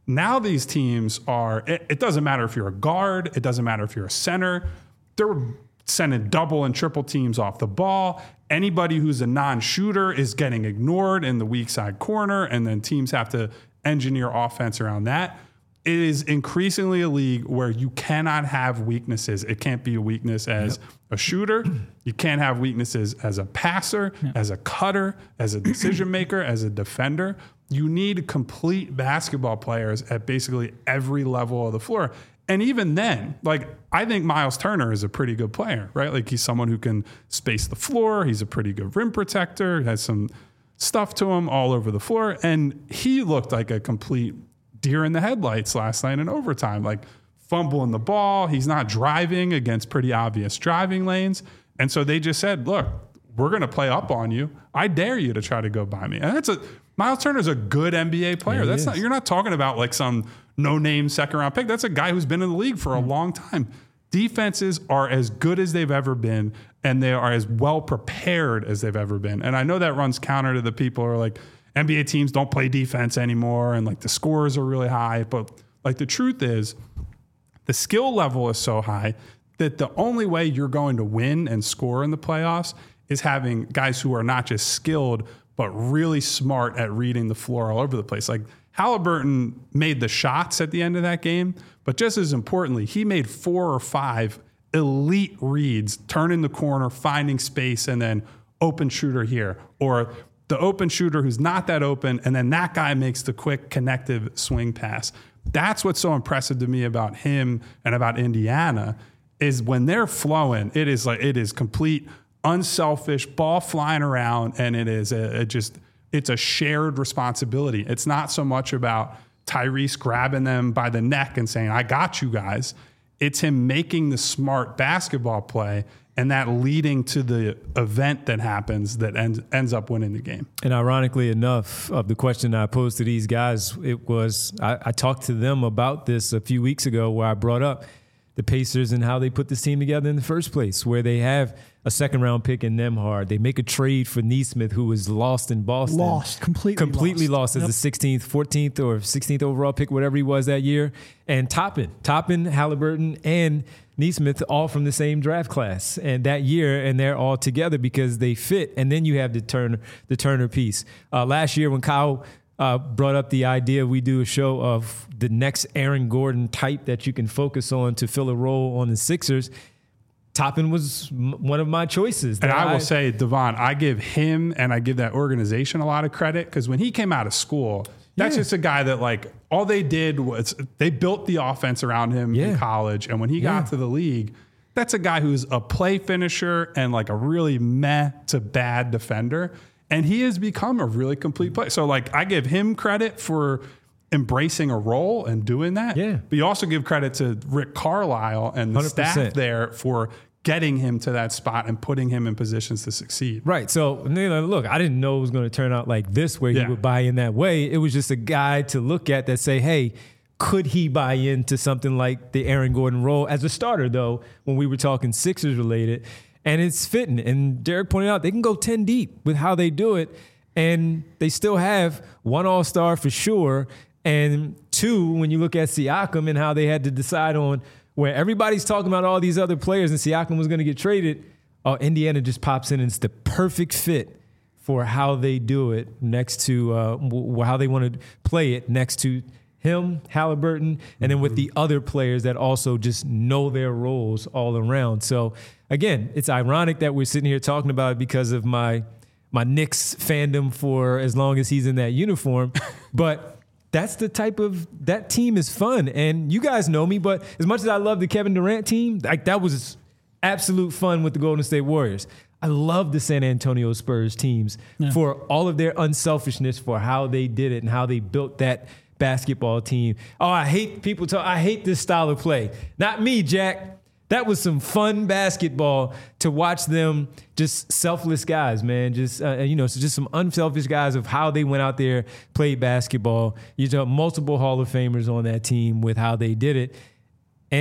Now these teams are, it, it doesn't matter if you're a guard, it doesn't matter if you're a center. They're sending double and triple teams off the ball. Anybody who's a non-shooter is getting ignored in the weak side corner, and then teams have to engineer offense around that. It is increasingly a league where you cannot have weaknesses. It can't be a weakness as yep. a shooter. You can't have weaknesses as a passer, yep. as a cutter, as a decision maker, as a defender. You need complete basketball players at basically every level of the floor. And even then, like, I think Miles Turner is a pretty good player, right? Like, he's someone who can space the floor. He's a pretty good rim protector, has some stuff to him all over the floor. And he looked like a complete deer in the headlights last night in overtime, like fumbling the ball. He's not driving against pretty obvious driving lanes. And so they just said, look, we're going to play up on you. I dare you to try to go by me. And that's a, Miles Turner's a good N B A player. Yeah, that's not, you're not talking about like some no-name second-round pick. That's a guy who's been in the league for a long time. Defenses are as good as they've ever been, and they are as well prepared as they've ever been. And I know that runs counter to the people who are like, N B A teams don't play defense anymore, and like the scores are really high. But like the truth is, the skill level is so high that the only way you're going to win and score in the playoffs is having guys who are not just skilled, but really smart at reading the floor all over the place. Like Halliburton made the shots at the end of that game, but just as importantly, he made four or five elite reads, turning the corner, finding space, and then open shooter here, or the open shooter who's not that open, and then that guy makes the quick connective swing pass. That's what's so impressive to me about him and about Indiana is when they're flowing, it is like it is complete unselfish ball flying around, and it is a, a just it's a shared responsibility. It's not so much about Tyrese grabbing them by the neck and saying, I got you guys. It's him making the smart basketball play, and that leading to the event that happens that ends, ends up winning the game. And ironically enough, of the question I posed to these guys, it was I, I talked to them about this a few weeks ago where I brought up the Pacers and how they put this team together in the first place, where they have a second-round pick in Nembhard. They make a trade for Nesmith, who was lost in Boston. Lost, completely Completely lost, lost as yep. the sixteenth, fourteenth, or sixteenth overall pick, whatever he was that year. And Toppin, Toppin, Halliburton, and Nesmith all from the same draft class and that year, and they're all together because they fit. And then you have the Turner, the Turner piece. Uh, last year when Kyle uh, brought up the idea we do a show of the next Aaron Gordon type that you can focus on to fill a role on the Sixers, Toppin was m- one of my choices. And I will I, say, Devon, I give him and I give that organization a lot of credit because when he came out of school, that's yeah. just a guy that like all they did was they built the offense around him yeah. in college. And when he yeah. got to the league, that's a guy who's a play finisher and like a really meh to bad defender. And he has become a really complete player. So like I give him credit for embracing a role and doing that. Yeah. But you also give credit to Rick Carlisle and the one hundred percent staff there for getting him to that spot and putting him in positions to succeed. Right. So, look, I didn't know it was going to turn out like this where yeah. he would buy in that way. It was just a guy to look at that say, hey, could he buy into something like the Aaron Gordon role as a starter, though, when we were talking Sixers related? And it's fitting. And Derek pointed out they can go ten deep with how they do it. And they still have one all-star for sure. And two, when you look at Siakam and how they had to decide on where everybody's talking about all these other players and Siakam was going to get traded, oh, Indiana just pops in and it's the perfect fit for how they do it next to uh, w- how they want to play it next to him, Halliburton, and then with the other players that also just know their roles all around. So, again, it's ironic that we're sitting here talking about it because of my my Knicks fandom for as long as he's in that uniform. But that's the type of – that team is fun. And you guys know me, but as much as I love the Kevin Durant team, like that was absolute fun with the Golden State Warriors. I love the San Antonio Spurs teams yeah. for all of their unselfishness for how they did it and how they built that – basketball team. Oh, I hate people talk. I hate this style of play. Not me, Jack. That was some fun basketball to watch them. Just selfless guys, man. Just uh, you know, so just some unselfish guys of how they went out there, played basketball. You know, multiple Hall of Famers on that team with how they did it, and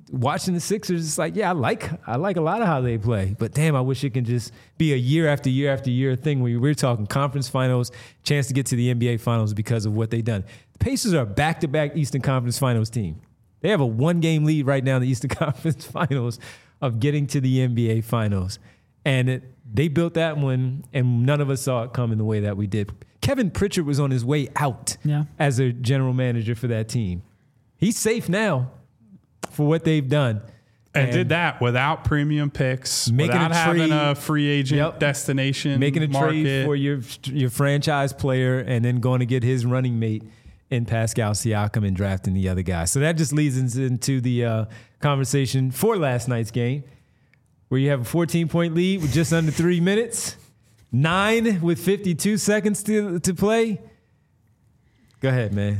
watching the Sixers, it's like, yeah, I like I like a lot of how they play, but damn, I wish it can just be a year after year after year thing where we're talking conference finals, chance to get to the N B A finals because of what they've done. The Pacers are a back-to-back Eastern Conference Finals team. They have a one-game lead right now in the Eastern Conference Finals of getting to the N B A finals, and it, they built that one, and none of us saw it coming the way that we did. Kevin Pritchard was on his way out yeah. as a general manager for that team. He's safe now for what they've done. And, and did that without premium picks, making without a having trade, a free agent yep, destination making a market. trade for your your franchise player and then going to get his running mate in Pascal Siakam and drafting the other guy. So that just leads us into the uh, conversation for last night's game, where you have a fourteen-point lead with just under three minutes, nine with fifty-two seconds to to play. Go ahead, man.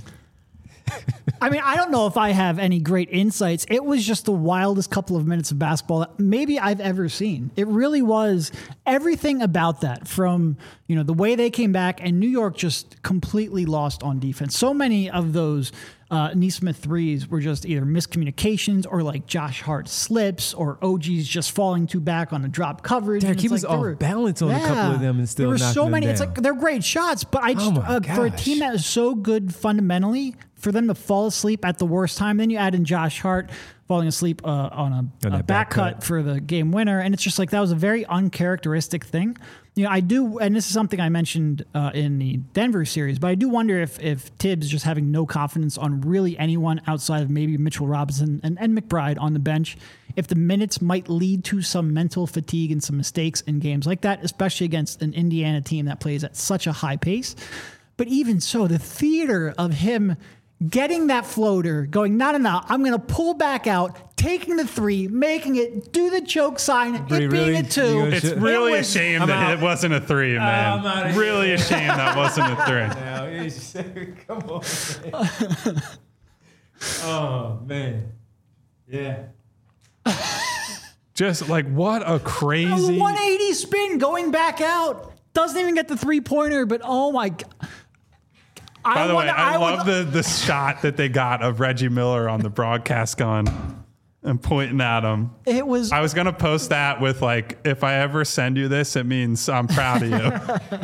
I mean, I don't know if I have any great insights. It was just the wildest couple of minutes of basketball that maybe I've ever seen. It really was everything about that, from, you know, the way they came back, and New York just completely lost on defense. So many of those uh, Nesmith threes were just either miscommunications or like Josh Hart slips or O G's just falling too back on a drop coverage. Derek, he like was off were, balance on yeah, a couple of them and still there were knocking so them many. down. It's like they're great shots, but I just Oh my uh, for a gosh. team that is so good fundamentally, for them to fall asleep at the worst time, then you add in Josh Hart falling asleep uh, on a, On a that back back cut cut. for the game winner, and it's just like that was a very uncharacteristic thing. You know, I do, and this is something I mentioned uh, in the Denver series, but I do wonder if if Tibbs just having no confidence on really anyone outside of maybe Mitchell Robinson and, and McBride on the bench, if the minutes might lead to some mental fatigue and some mistakes in games like that, especially against an Indiana team that plays at such a high pace. But even so, the theater of him getting that floater, going, no, no, no, I'm going to pull back out, taking the three, making it, do the choke sign, it being really? a You two. gonna It's It really a was- shame I'm that out. it wasn't a three, man. I'm outta really a shame that wasn't a three. Now, it's- come on, man. Oh, man. Yeah. Just like what a crazy. one eighty spin going back out. Doesn't even get the three pointer, but oh my God. By the way, wanna- I, love would- the the shot that they got of Reggie Miller on the broadcast gun and pointing at him. It was. I was gonna post that with like, if I ever send you this, it means I'm proud of you.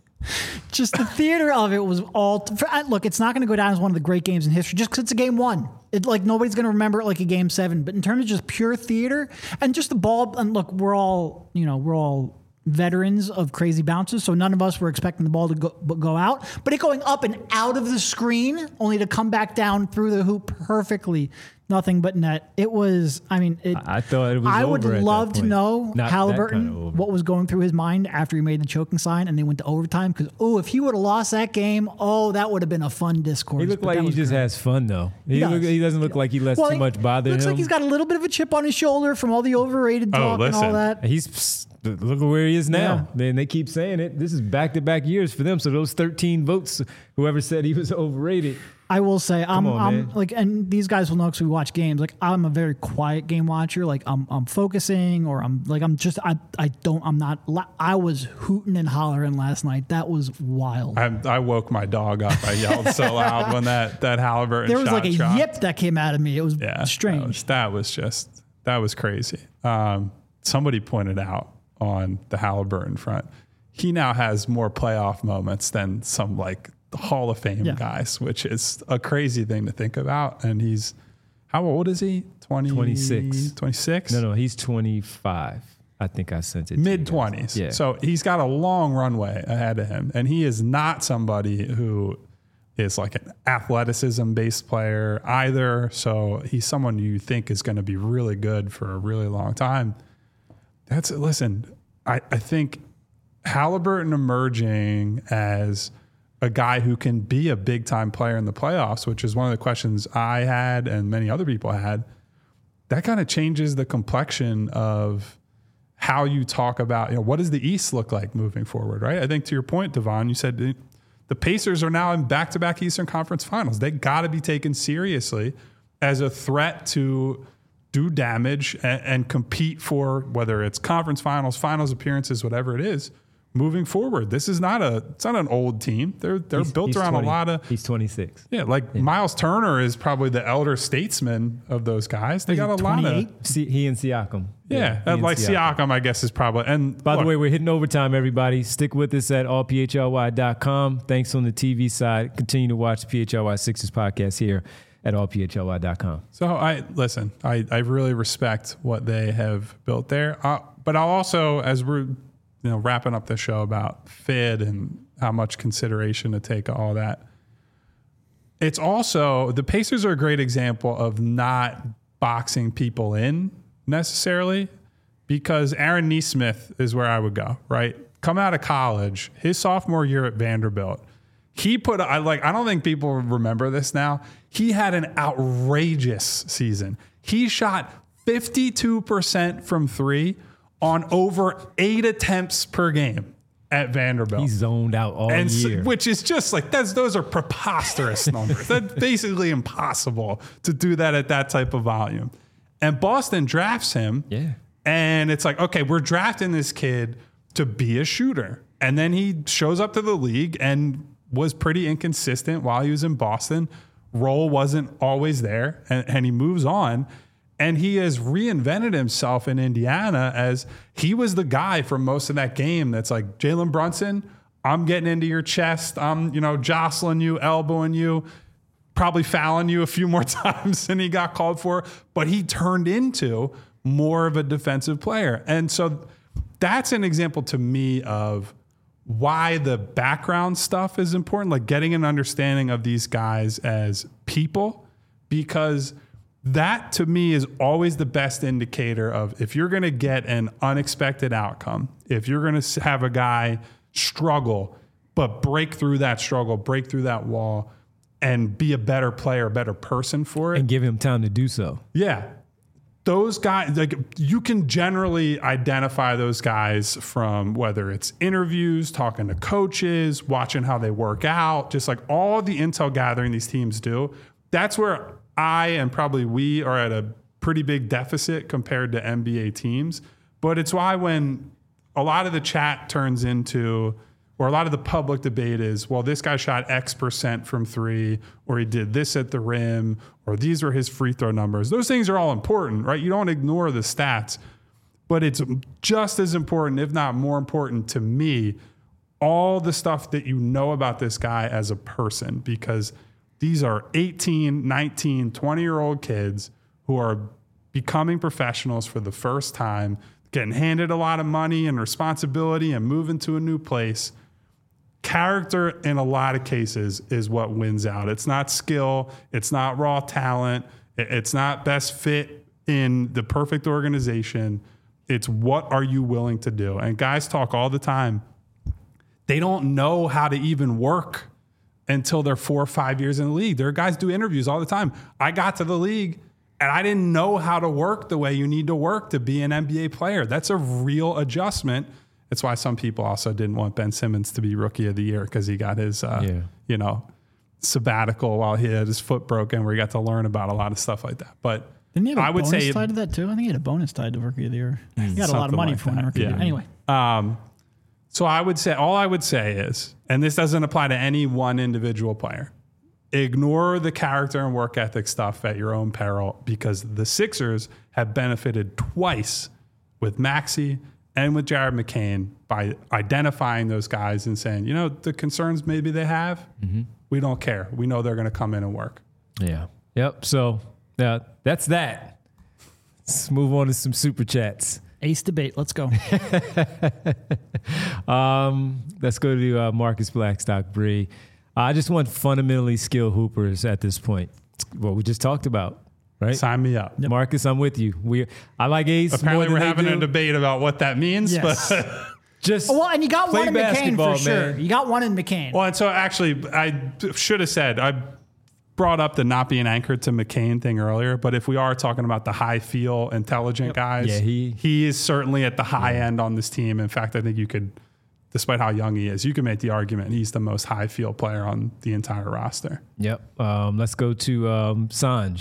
Just the theater of it was all. For, uh, look, it's not going to go down as one of the great games in history just because it's a game one. It like nobody's going to remember it like a game seven. But in terms of just pure theater and just the ball, and look, we're all you know we're all veterans of crazy bounces, so none of us were expecting the ball to go go out. But it going up and out of the screen, only to come back down through the hoop perfectly. Nothing but net. It was. I mean, it, I thought it was I would over at that love to point. know Not that Halliburton kind of over. what was going through his mind after he made the choking sign and they went to overtime. Because oh, if he would have lost that game, oh, that would have been a fun discourse. He looked But like that he was just great. has fun, though. He, does. look, he doesn't look like he lets Well, too he much bother looks him. like he's got a little bit of a chip on his shoulder from all the overrated Oh, talk and all listen. that. He's look at where he is now. Man, they keep saying it. This is back-to-back years for them. So those thirteen votes, whoever said he was overrated. I will say, I'm, on, I'm man. like, and these guys will know because we watch games. Like, I'm a very quiet game watcher. Like, I'm, I'm focusing, or I'm like, I'm just, I, I don't, I'm not. I was hooting and hollering last night. That was wild. I, I woke my dog up. I yelled so loud when that that Halliburton there was shot like a dropped. yip that came out of me. It was Yeah, strange. That was, that was just that was crazy. Um, somebody pointed out on the Halliburton front, he now has more playoff moments than some like Hall of Fame Yeah. guys, which is a crazy thing to think about. And he's how old is he? twenty, twenty-six. twenty-six? No, no, he's twenty-five. I think I sent it. to you Mid guys. twenties. Yeah. So he's got a long runway ahead of him. And he is not somebody who is like an athleticism based player either. So he's someone you think is going to be really good for a really long time. That's listen, I, I think Halliburton emerging as a guy who can be a big time player in the playoffs, which is one of the questions I had and many other people had. That kind of changes the complexion of how you talk about, you know, what does the East look like moving forward, right? I think to your point, Devon, you said the, the Pacers are now in back-to-back Eastern Conference Finals. They got to be taken seriously as a threat to do damage and, and compete for whether it's conference finals, finals appearances, whatever it is, moving forward. This is not a it's not an old team. They're they're He's- built he's around twenty a lot of He's twenty-six. yeah, like Miles Turner is probably the elder statesman of those guys. They Is got he a lot of twenty-eight? See, he and Siakam. yeah, he and like Siakam, I guess is probably and By look, the way, we're hitting overtime, everybody. Stick with us at all P H L Y dot com. Thanks on the T V side. Continue to watch the P H L Y Sixers podcast here at all P H L Y dot com. So I listen. I, I really respect what they have built there. Uh, but I'll also, as we're you know wrapping up the show about fit and how much consideration to take all that, it's also the Pacers are a great example of not boxing people in necessarily, because Aaron Nesmith is where I would go. Right, coming out of college, his sophomore year at Vanderbilt. He put, I like, I don't think people remember this now. He had an outrageous season. He shot fifty-two percent from three on over eight attempts per game at Vanderbilt. He's zoned out all and year. so, which is just like, that's, those are preposterous numbers. That's basically impossible to do that at that type of volume. And Boston drafts him. Yeah. And it's like, okay, we're drafting this kid to be a shooter. And then he shows up to the league and was pretty inconsistent while he was in Boston. Role wasn't always there, and, and he moves on. And he has reinvented himself in Indiana as he was the guy for most of that game that's like, Jalen Brunson, I'm getting into your chest. I'm, you know, jostling you, elbowing you, probably fouling you a few more times than he got called for. But he turned into more of a defensive player. And so that's an example to me of why the background stuff is important, like getting an understanding of these guys as people, because that to me is always the best indicator of if you're going to get an unexpected outcome, if you're going to have a guy struggle, but break through that struggle, break through that wall and be a better player, a better person for it. And give him time to do so. Yeah. Those guys, like you can generally identify those guys from whether it's interviews, talking to coaches, watching how they work out, just like all the intel gathering these teams do. That's where I and probably we are at a pretty big deficit compared to N B A teams. But it's why when a lot of the chat turns into, or a lot of the public debate is, well, this guy shot X percent from three, or he did this at the rim, or these were his free throw numbers. Those things are all important, right? You don't ignore the stats, but it's just as important, if not more important to me, all the stuff that you know about this guy as a person, because these are eighteen, nineteen, twenty-year-old kids who are becoming professionals for the first time, getting handed a lot of money and responsibility and moving to a new place. Character in a lot of cases is what wins out. It's not skill. It's not raw talent. It's not best fit in the perfect organization. It's what are you willing to do? And guys talk all the time. They don't know how to even work until they're four or five years in the league. There are guys do interviews all the time. I got to the league and I didn't know how to work the way you need to work to be an N B A player. That's a real adjustment. That's why some people also didn't want Ben Simmons to be Rookie of the Year, because he got his, uh, yeah. you know, sabbatical while he had his foot broken, where he got to learn about a lot of stuff like that. But Didn't he have a I would bonus say tied to that too? I think he had a bonus tied to Rookie of the Year. He got a lot of money like for winning Rookie yeah. of the Year. Anyway. Um, so I would say, all I would say is, and this doesn't apply to any one individual player, ignore the character and work ethic stuff at your own peril, because the Sixers have benefited twice with Maxey and with Jared McCain by identifying those guys and saying, you know, the concerns maybe they have, mm-hmm. we don't care. We know they're going to come in and work. Yeah. Yep. So uh, that's that. Let's move on to some super chats. Ace debate. Let's go. um, let's go to uh, Marcus Blackstock Bree. I just want fundamentally skilled hoopers at this point. What we just talked about. Right? Sign me up. Yep. Marcus, I'm with you. We, I like Ace. Apparently, more we're than having do. a debate about what that means. Yes. But just well, and you got one in McCain for sure. Man. You got one in McCain. Well, and so actually, I should have said, I brought up the not being anchored to McCain thing earlier. But if we are talking about the high feel, intelligent yep. guys, yeah, he, he is certainly at the high yeah. end on this team. In fact, I think you could, despite how young he is, you can make the argument he's the most high feel player on the entire roster. Yep. Um, let's go to um, Sanj.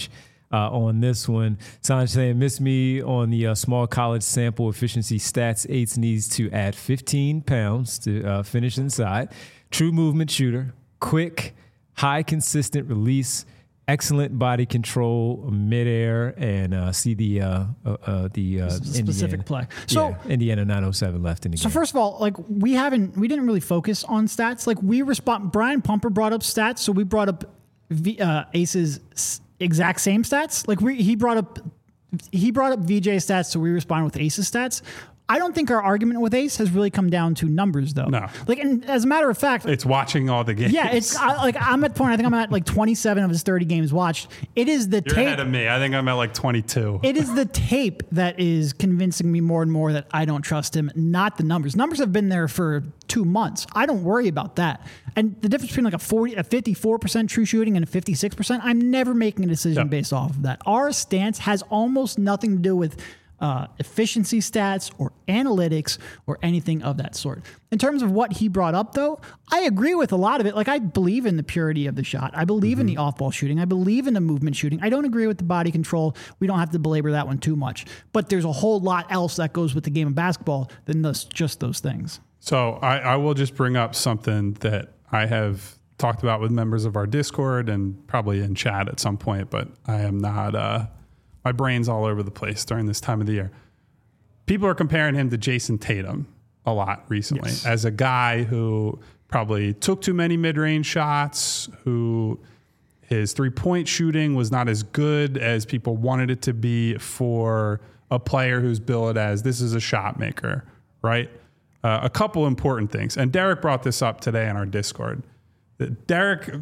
uh, on this one. Sanj saying, miss me on the uh, small college sample efficiency stats. Ace needs to add fifteen pounds to uh, finish inside. True movement shooter, quick, high consistent release, excellent body control midair, and uh, see the uh, uh, uh, the uh, specific Indiana, play. So yeah, Indiana nine oh seven left in the so game. first of all, like we haven't we didn't really focus on stats. Like we respond. Brian Pumper brought up stats, so we brought up v, uh, Ace's s- exact same stats. Like we he brought up he brought up V J stats, so we responded with Ace's stats. I don't think our argument with Ace has really come down to numbers, though. No. Like, and as a matter of fact, It's watching all the games. yeah, it's I, like I'm at the point. I think I'm at like twenty-seven of his thirty games watched. It is the You're tape. ahead of me. I think I'm at like twenty-two. It is the tape that is convincing me more and more that I don't trust him, not the numbers. Numbers have been there for two months. I don't worry about that. And the difference between like a forty, a fifty-four percent true shooting and a fifty-six percent, I'm never making a decision Yep. based off of that. Our stance has almost nothing to do with uh, efficiency stats or analytics or anything of that sort. In terms of what he brought up, though, I agree with a lot of it. Like, I believe in the purity of the shot. I believe mm-hmm. in the off-ball shooting. I believe in the movement shooting. I don't agree with the body control. We don't have to belabor that one too much. But there's a whole lot else that goes with the game of basketball than those, just those things. So I, I will just bring up something that I have talked about with members of our Discord and probably in chat at some point, but I am not, uh, my brain's all over the place during this time of the year. People are comparing him to Jason Tatum a lot recently yes. as a guy who probably took too many mid-range shots, who his three-point shooting was not as good as people wanted it to be for a player who's billed as this is a shot maker, right? Uh, a couple important things. And Derek brought this up today on our Discord. Derek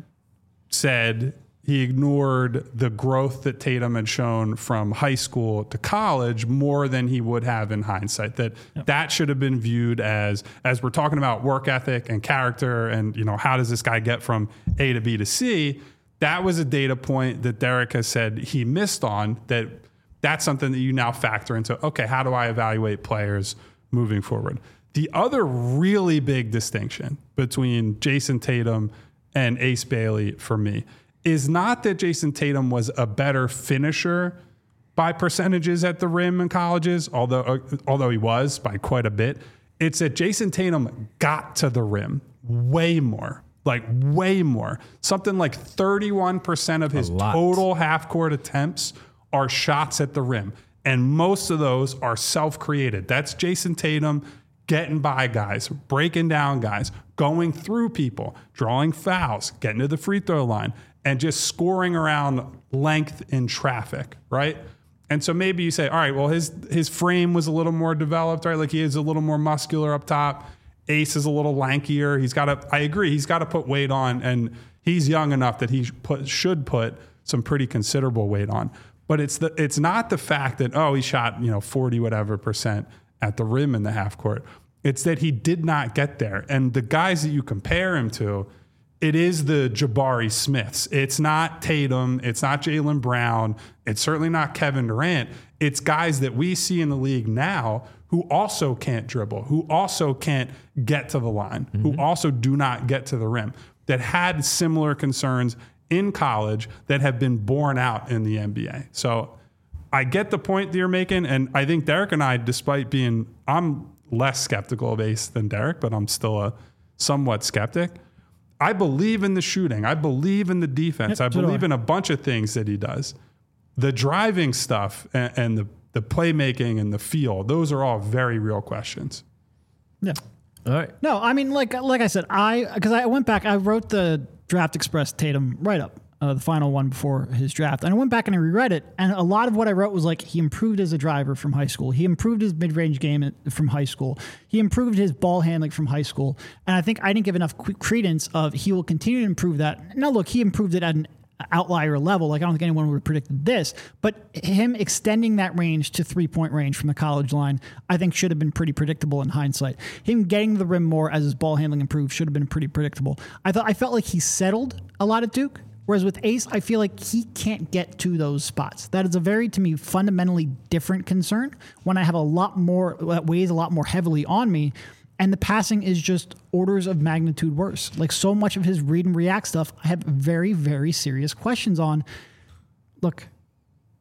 said he ignored the growth that Tatum had shown from high school to college more than he would have in hindsight. That yep. that should have been viewed as, as we're talking about work ethic and character and, you know, how does this guy get from A to B to C? That was a data point that Derek has said he missed on, that that's something that you now factor into, okay, how do I evaluate players moving forward? The other really big distinction between Jason Tatum and Ace Bailey for me is not that Jason Tatum was a better finisher by percentages at the rim in colleges, although uh, although he was by quite a bit. It's that Jason Tatum got to the rim way more, like way more. Something like thirty-one percent of his total half-court attempts are shots at the rim, and most of those are self-created. That's Jason Tatum getting by guys, breaking down guys, going through people, drawing fouls, getting to the free throw line, and just scoring around length in traffic, right? And so maybe you say, all right, well, his his frame was a little more developed, right? Like he is a little more muscular up top. Ace is a little lankier. He's got to, I agree, he's got to put weight on, and he's young enough that he put, should put some pretty considerable weight on. But it's the it's not the fact that, oh, he shot, you know, forty whatever percent at the rim in the half court. It's that he did not get there. And the guys that you compare him to, it is the Jabari Smiths. It's not Tatum. It's not Jaylen Brown. It's certainly not Kevin Durant. It's guys that we see in the league now who also can't dribble, who also can't get to the line, mm-hmm. who also do not get to the rim, that had similar concerns in college that have been borne out in the N B A. So I get the point that you're making. And I think Derek and I, despite being, I'm less skeptical of Ace than Derek, but I'm still a somewhat skeptic. I believe in the shooting. I believe in the defense. Yep, I believe in a bunch of things that he does. The driving stuff and, and the, the playmaking and the feel, those are all very real questions. Yeah. All right. No, I mean, like like I said, I because I went back, I wrote the Draft Express Tatum write-up, uh, the final one before his draft. And I went back and I reread it, and a lot of what I wrote was like, he improved as a driver from high school. He improved his mid-range game from high school. He improved his ball handling from high school. And I think I didn't give enough credence of he will continue to improve that. Now, look, he improved it at an outlier level. Like, I don't think anyone would have predicted this, but him extending that range to three-point range from the college line, I think should have been pretty predictable in hindsight. Him getting to the rim more as his ball handling improved should have been pretty predictable. I thought I felt like he settled a lot at Duke. Whereas with Ace, I feel like he can't get to those spots. That is a very, to me, fundamentally different concern when I have a lot more, that weighs a lot more heavily on me. And the passing is just orders of magnitude worse. Like, so much of his read and react stuff, I have very, very serious questions on. Look,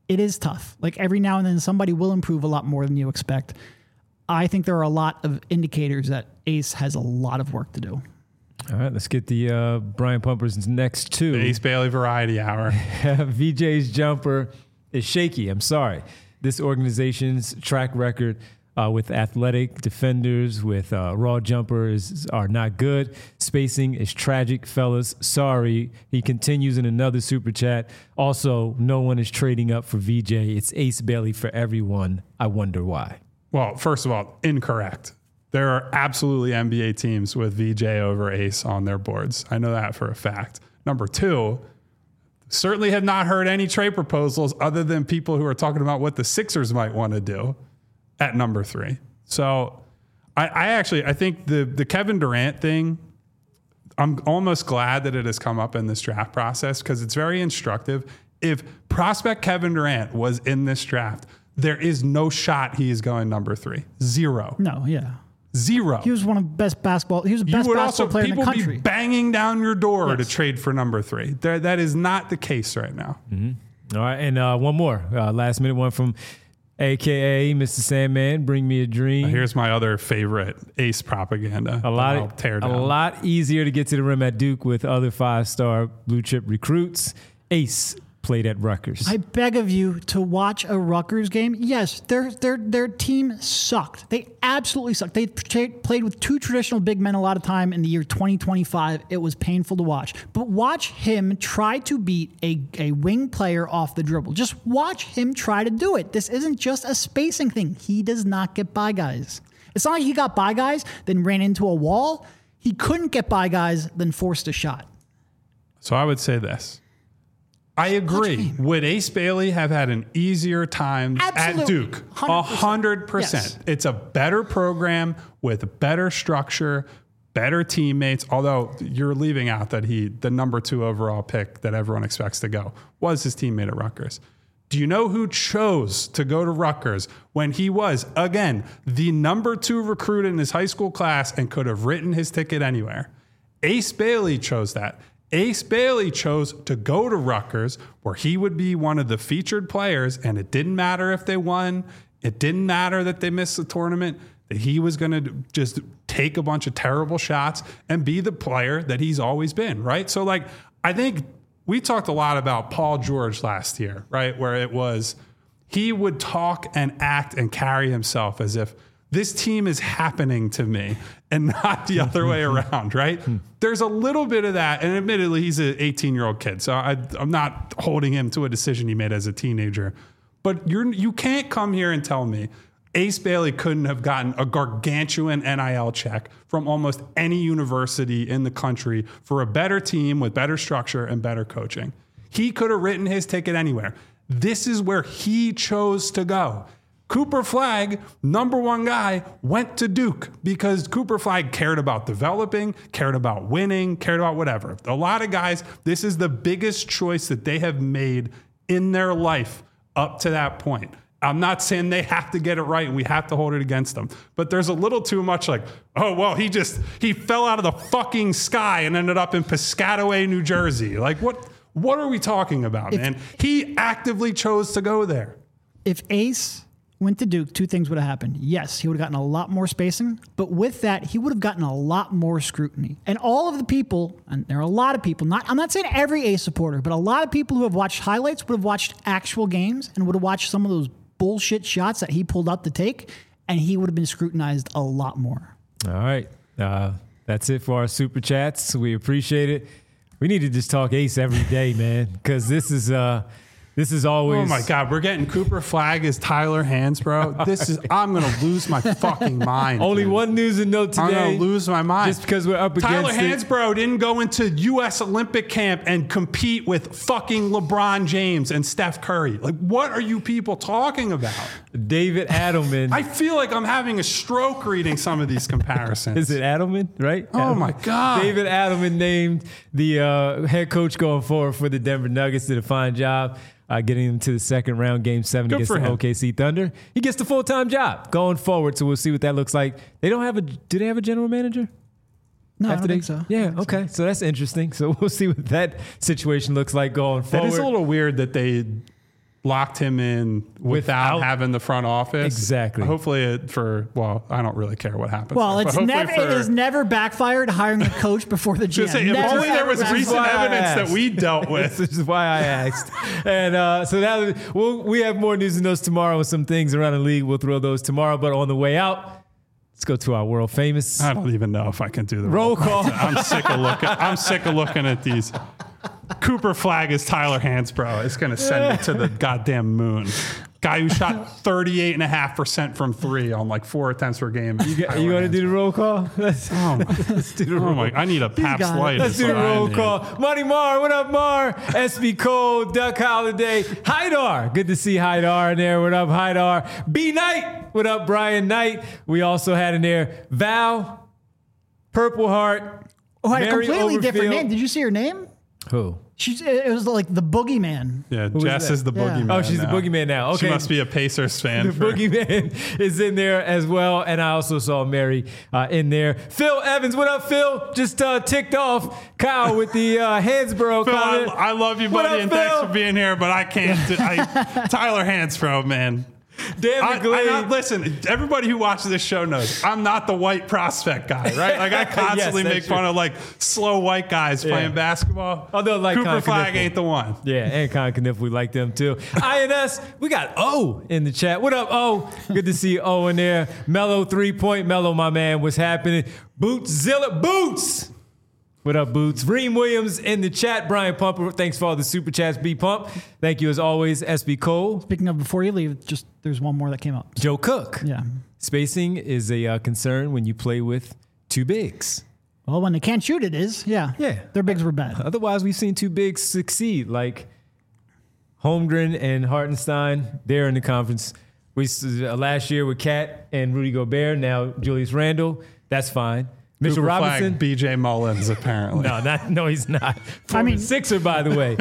it is tough. Like every now and then somebody will improve a lot more than you expect. I think there are a lot of indicators that Ace has a lot of work to do. All right, let's get the uh, Brian Pumper's next two. The Ace Bailey Variety Hour. V J's jumper is shaky. I'm sorry. This organization's track record uh, with athletic defenders, with uh, raw jumpers are not good. Spacing is tragic, fellas. Sorry. He continues in another super chat. Also, no one is trading up for V J. It's Ace Bailey for everyone. I wonder why. Well, first of all, incorrect. There are absolutely N B A teams with V J over Ace on their boards. I know that for a fact. Number two, certainly have not heard any trade proposals other than people who are talking about what the Sixers might want to do at number three. So I, I actually, I think the, the Kevin Durant thing, I'm almost glad that it has come up in this draft process because it's very instructive. If prospect Kevin Durant was in this draft, there is no shot he is going number three. Zero. No, yeah. Zero. He was one of the best basketball. He was the you best would basketball also, player in the people country. be banging down your door Yes. to trade for number three. There, that is not the case right now. Mm-hmm. All right, and uh, one more uh, last minute one from A K A Mister Sandman. Bring me a dream. Here's my other favorite Ace propaganda. A lot, I'll tear down. a lot easier to get to the rim at Duke with other five-star blue chip recruits. Ace played at Rutgers. I beg of you to watch a Rutgers game. Yes, their their their team sucked. They absolutely sucked. They tra- played with two traditional big men a lot of time in the year twenty twenty-five. It was painful to watch. But watch him try to beat a, a wing player off the dribble. Just watch him try to do it. This isn't just a spacing thing. He does not get by guys. It's not like he got by guys, then ran into a wall. He couldn't get by guys, then forced a shot. So I would say this. I agree. Would Ace Bailey have had an easier time Absolutely. at Duke? A hundred percent. It's a better program with better structure, better teammates. Although you're leaving out that he, the number two overall pick that everyone expects to go, was his teammate at Rutgers. Do you know who chose to go to Rutgers when he was, again, the number two recruit in his high school class and could have written his ticket anywhere? Ace Bailey chose that. Ace Bailey chose to go to Rutgers where he would be one of the featured players, and it didn't matter if they won. It didn't matter that they missed the tournament, that he was going to just take a bunch of terrible shots and be the player that he's always been, right? So, like, I think we talked a lot about Paul George last year, right? Where it was he would talk and act and carry himself as if this team is happening to me and not the other way around, right? There's a little bit of that. And admittedly, he's an eighteen-year-old kid, so I, I'm not holding him to a decision he made as a teenager. But you're, you can't come here and tell me Ace Bailey couldn't have gotten a gargantuan N I L check from almost any university in the country for a better team with better structure and better coaching. He could have written his ticket anywhere. This is where he chose to go. Cooper Flagg, number one guy, went to Duke because Cooper Flagg cared about developing, cared about winning, cared about whatever. A lot of guys, this is the biggest choice that they have made in their life up to that point. I'm not saying they have to get it right and we have to hold it against them, but there's a little too much like, oh, well, he just, he fell out of the fucking sky and ended up in Piscataway, New Jersey. Like, what, what are we talking about, if, man? He actively chose to go there. If Ace went to Duke, two things would have happened. Yes, he would have gotten a lot more spacing, but with that, he would have gotten a lot more scrutiny. And all of the people, and there are a lot of people, not I'm not saying every Ace supporter, but a lot of people who have watched highlights would have watched actual games and would have watched some of those bullshit shots that he pulled up to take, and he would have been scrutinized a lot more. All right. Uh, that's it for our super chats. We appreciate it. We need to just talk Ace every day, man, because this is uh, this is always. Oh my God, we're getting Cooper Flagg as Tyler Hansbrough. This is I'm gonna lose my fucking mind. Only man. one news and note today. I'm gonna lose my mind just because we're up Tyler against it. Hansbrough didn't go into U S Olympic camp and compete with fucking LeBron James and Steph Curry. Like, what are you people talking about? David Adelman. I feel like I'm having a stroke reading some of these comparisons. Is it Adelman, right? Oh Adelman. my God. David Adelman named the uh, head coach going forward for the Denver Nuggets. Did a fine job uh, getting them to the second round, game seven Good against for the him. O K C Thunder. He gets the full-time job going forward, so we'll see what that looks like. They don't have a, do they have a general manager? No, After I don't they, think so. Yeah, think okay. So. so that's interesting. So we'll see what that situation looks like going That forward. is a little weird that they locked him in without, without having the front office. Exactly. Hopefully it for, well, I don't really care what happens. Well, there, it's never, for, it has never backfired hiring a coach before the G M. Say, if never, only there was recent evidence that we asked. dealt with. This is why I asked. And uh, so now we'll, we have more news and notes tomorrow with some things around the league. We'll throw those tomorrow. But on the way out, let's go to our world famous. I don't even know if I can do the roll call. I'm sick of looking. I'm sick of looking at these. Cooper Flag is Tyler Hansbrough. It's going to send me to the goddamn moon. Guy who shot thirty-eight point five percent from three on like four attempts per game. You, got, you want to do the roll call? Let's, oh my, let's do the oh roll my, I need a Pabst Light. Let's do the roll call. Money Mar, what up, Mar? S B Cole, Duck Holiday, Haidar. Good to see Haidar in there. What up, Haidar? B Knight. What up, Brian Knight? We also had in there Val, Purple Heart. Oh, had a Mary completely Overfield. different name. Did you see her name? Who? She's, it was like the Boogeyman. Yeah, Who Jess is, is the Yeah. boogeyman. Oh, she's now. the boogeyman now. Okay. She must be a Pacers fan. The for, boogeyman is in there as well. And I also saw Mary uh, in there. Phil Evans, what up, Phil? Just uh, ticked off Kyle with the uh, Hansbrough Phil, I, comment. I love you, What buddy, up, and Phil? thanks for being here, but I can't. Do, I, Tyler Hansbrough, man. Dan I, McGlade. I not, listen, everybody who watches this show knows I'm not the white prospect guy, right? Like I constantly Yes, make that's fun true. of like slow white guys Yeah. playing basketball. Although, like Cooper Con Flag Kniffle. ain't the one. Yeah, and Con Kniff, we like them too. I N S, we got O in the chat. What up, O? Good to see O in there. Mellow three point. Mellow, my man. What's happening? Boots Zilla. Boots. What up, Boots? Reem Williams in the chat. Brian Pumper, thanks for all the super chats. B Pump. Thank you as always. S B Cole. Speaking of, before you leave, just there's one more that came up. Joe Cook. Yeah. Spacing is a uh, concern when you play with two bigs. Well, when they can't shoot, it is. Yeah. Yeah. Their bigs were bad. Otherwise, we've seen two bigs succeed, like Holmgren and Hartenstein. They're in the conference. We uh, last year with Cat and Rudy Gobert. Now Julius Randle. That's fine. Mitchell Cooper Robinson. Flag, B J Mullins, apparently. No, not, no, he's not. Former I mean- Sixer, by the way.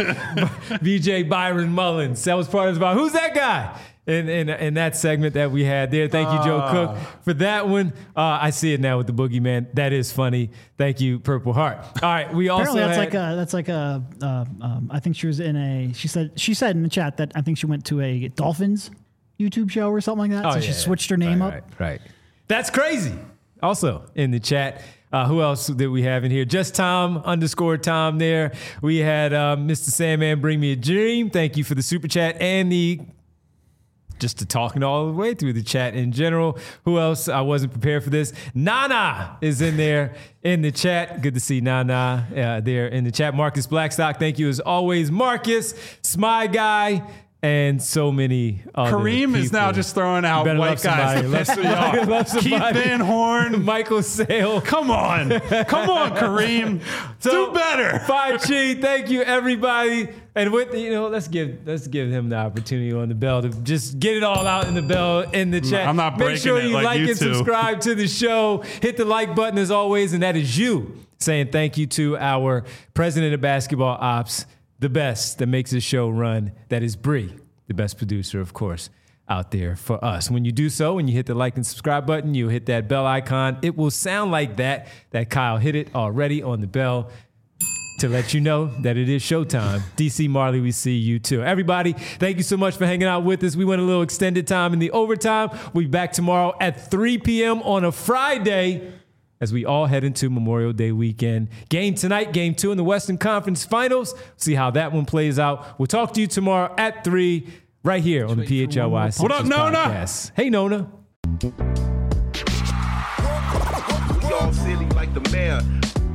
B J Byron Mullins. That was part of about who's that guy in, in in that segment that we had there. Thank you, Joe Uh. Cook, for that one. Uh, I see it now with the boogeyman. That is funny. Thank you, Purple Heart. All right, we also Apparently, that's had, like a that's like a. Uh, um, I think she was in a. She said she said in the chat that I think she went to a Dolphins YouTube show or something like that. Oh, so yeah, she yeah. switched her name right, up. Right, right. That's crazy. Also in the chat. Uh, who else did we have in here? Just Tom underscore Tom there. We had uh, Mister Sandman Bring Me a Dream. Thank you for the super chat and the just to talking all the way through the chat in general. Who else? I wasn't prepared for this. Nana is in there in the chat. Good to see Nana uh, there in the chat. Marcus Blackstock, thank you as always. Marcus, Smy Guy, and so many other Kareem is people. now just throwing You out better white love guys. somebody. that Love piss me somebody. off. Love Keith somebody. Van Horn. Michael Sale. Come on. Come on, Kareem. So, Do better. Five Chi, thank you everybody. And with you know, let's give let's give him the opportunity on the bell to just get it all out in the bell in the chat. I'm not Make breaking sure it you like like you and two. subscribe to the show. Hit the like button as always, and that is you saying thank you to our president of basketball ops, the best that makes this show run. That is Bree, the best producer, of course, out there for us. When you do so, when you hit the like and subscribe button, you hit that bell icon. It will sound like that, that Kyle hit it already on the bell to let you know that it is showtime. D C Marley, we see you too. Everybody, thank you so much for hanging out with us. We went a little extended time in the overtime. We'll be back tomorrow at three p.m. on a Friday as we all head into Memorial Day weekend. Game tonight, game two in the Western Conference Finals. See how that one plays out. We'll talk to you tomorrow at three right here on the P H L Y What up, Sixers Nona? podcast. Hey, Nona. Y'all silly like the mayor.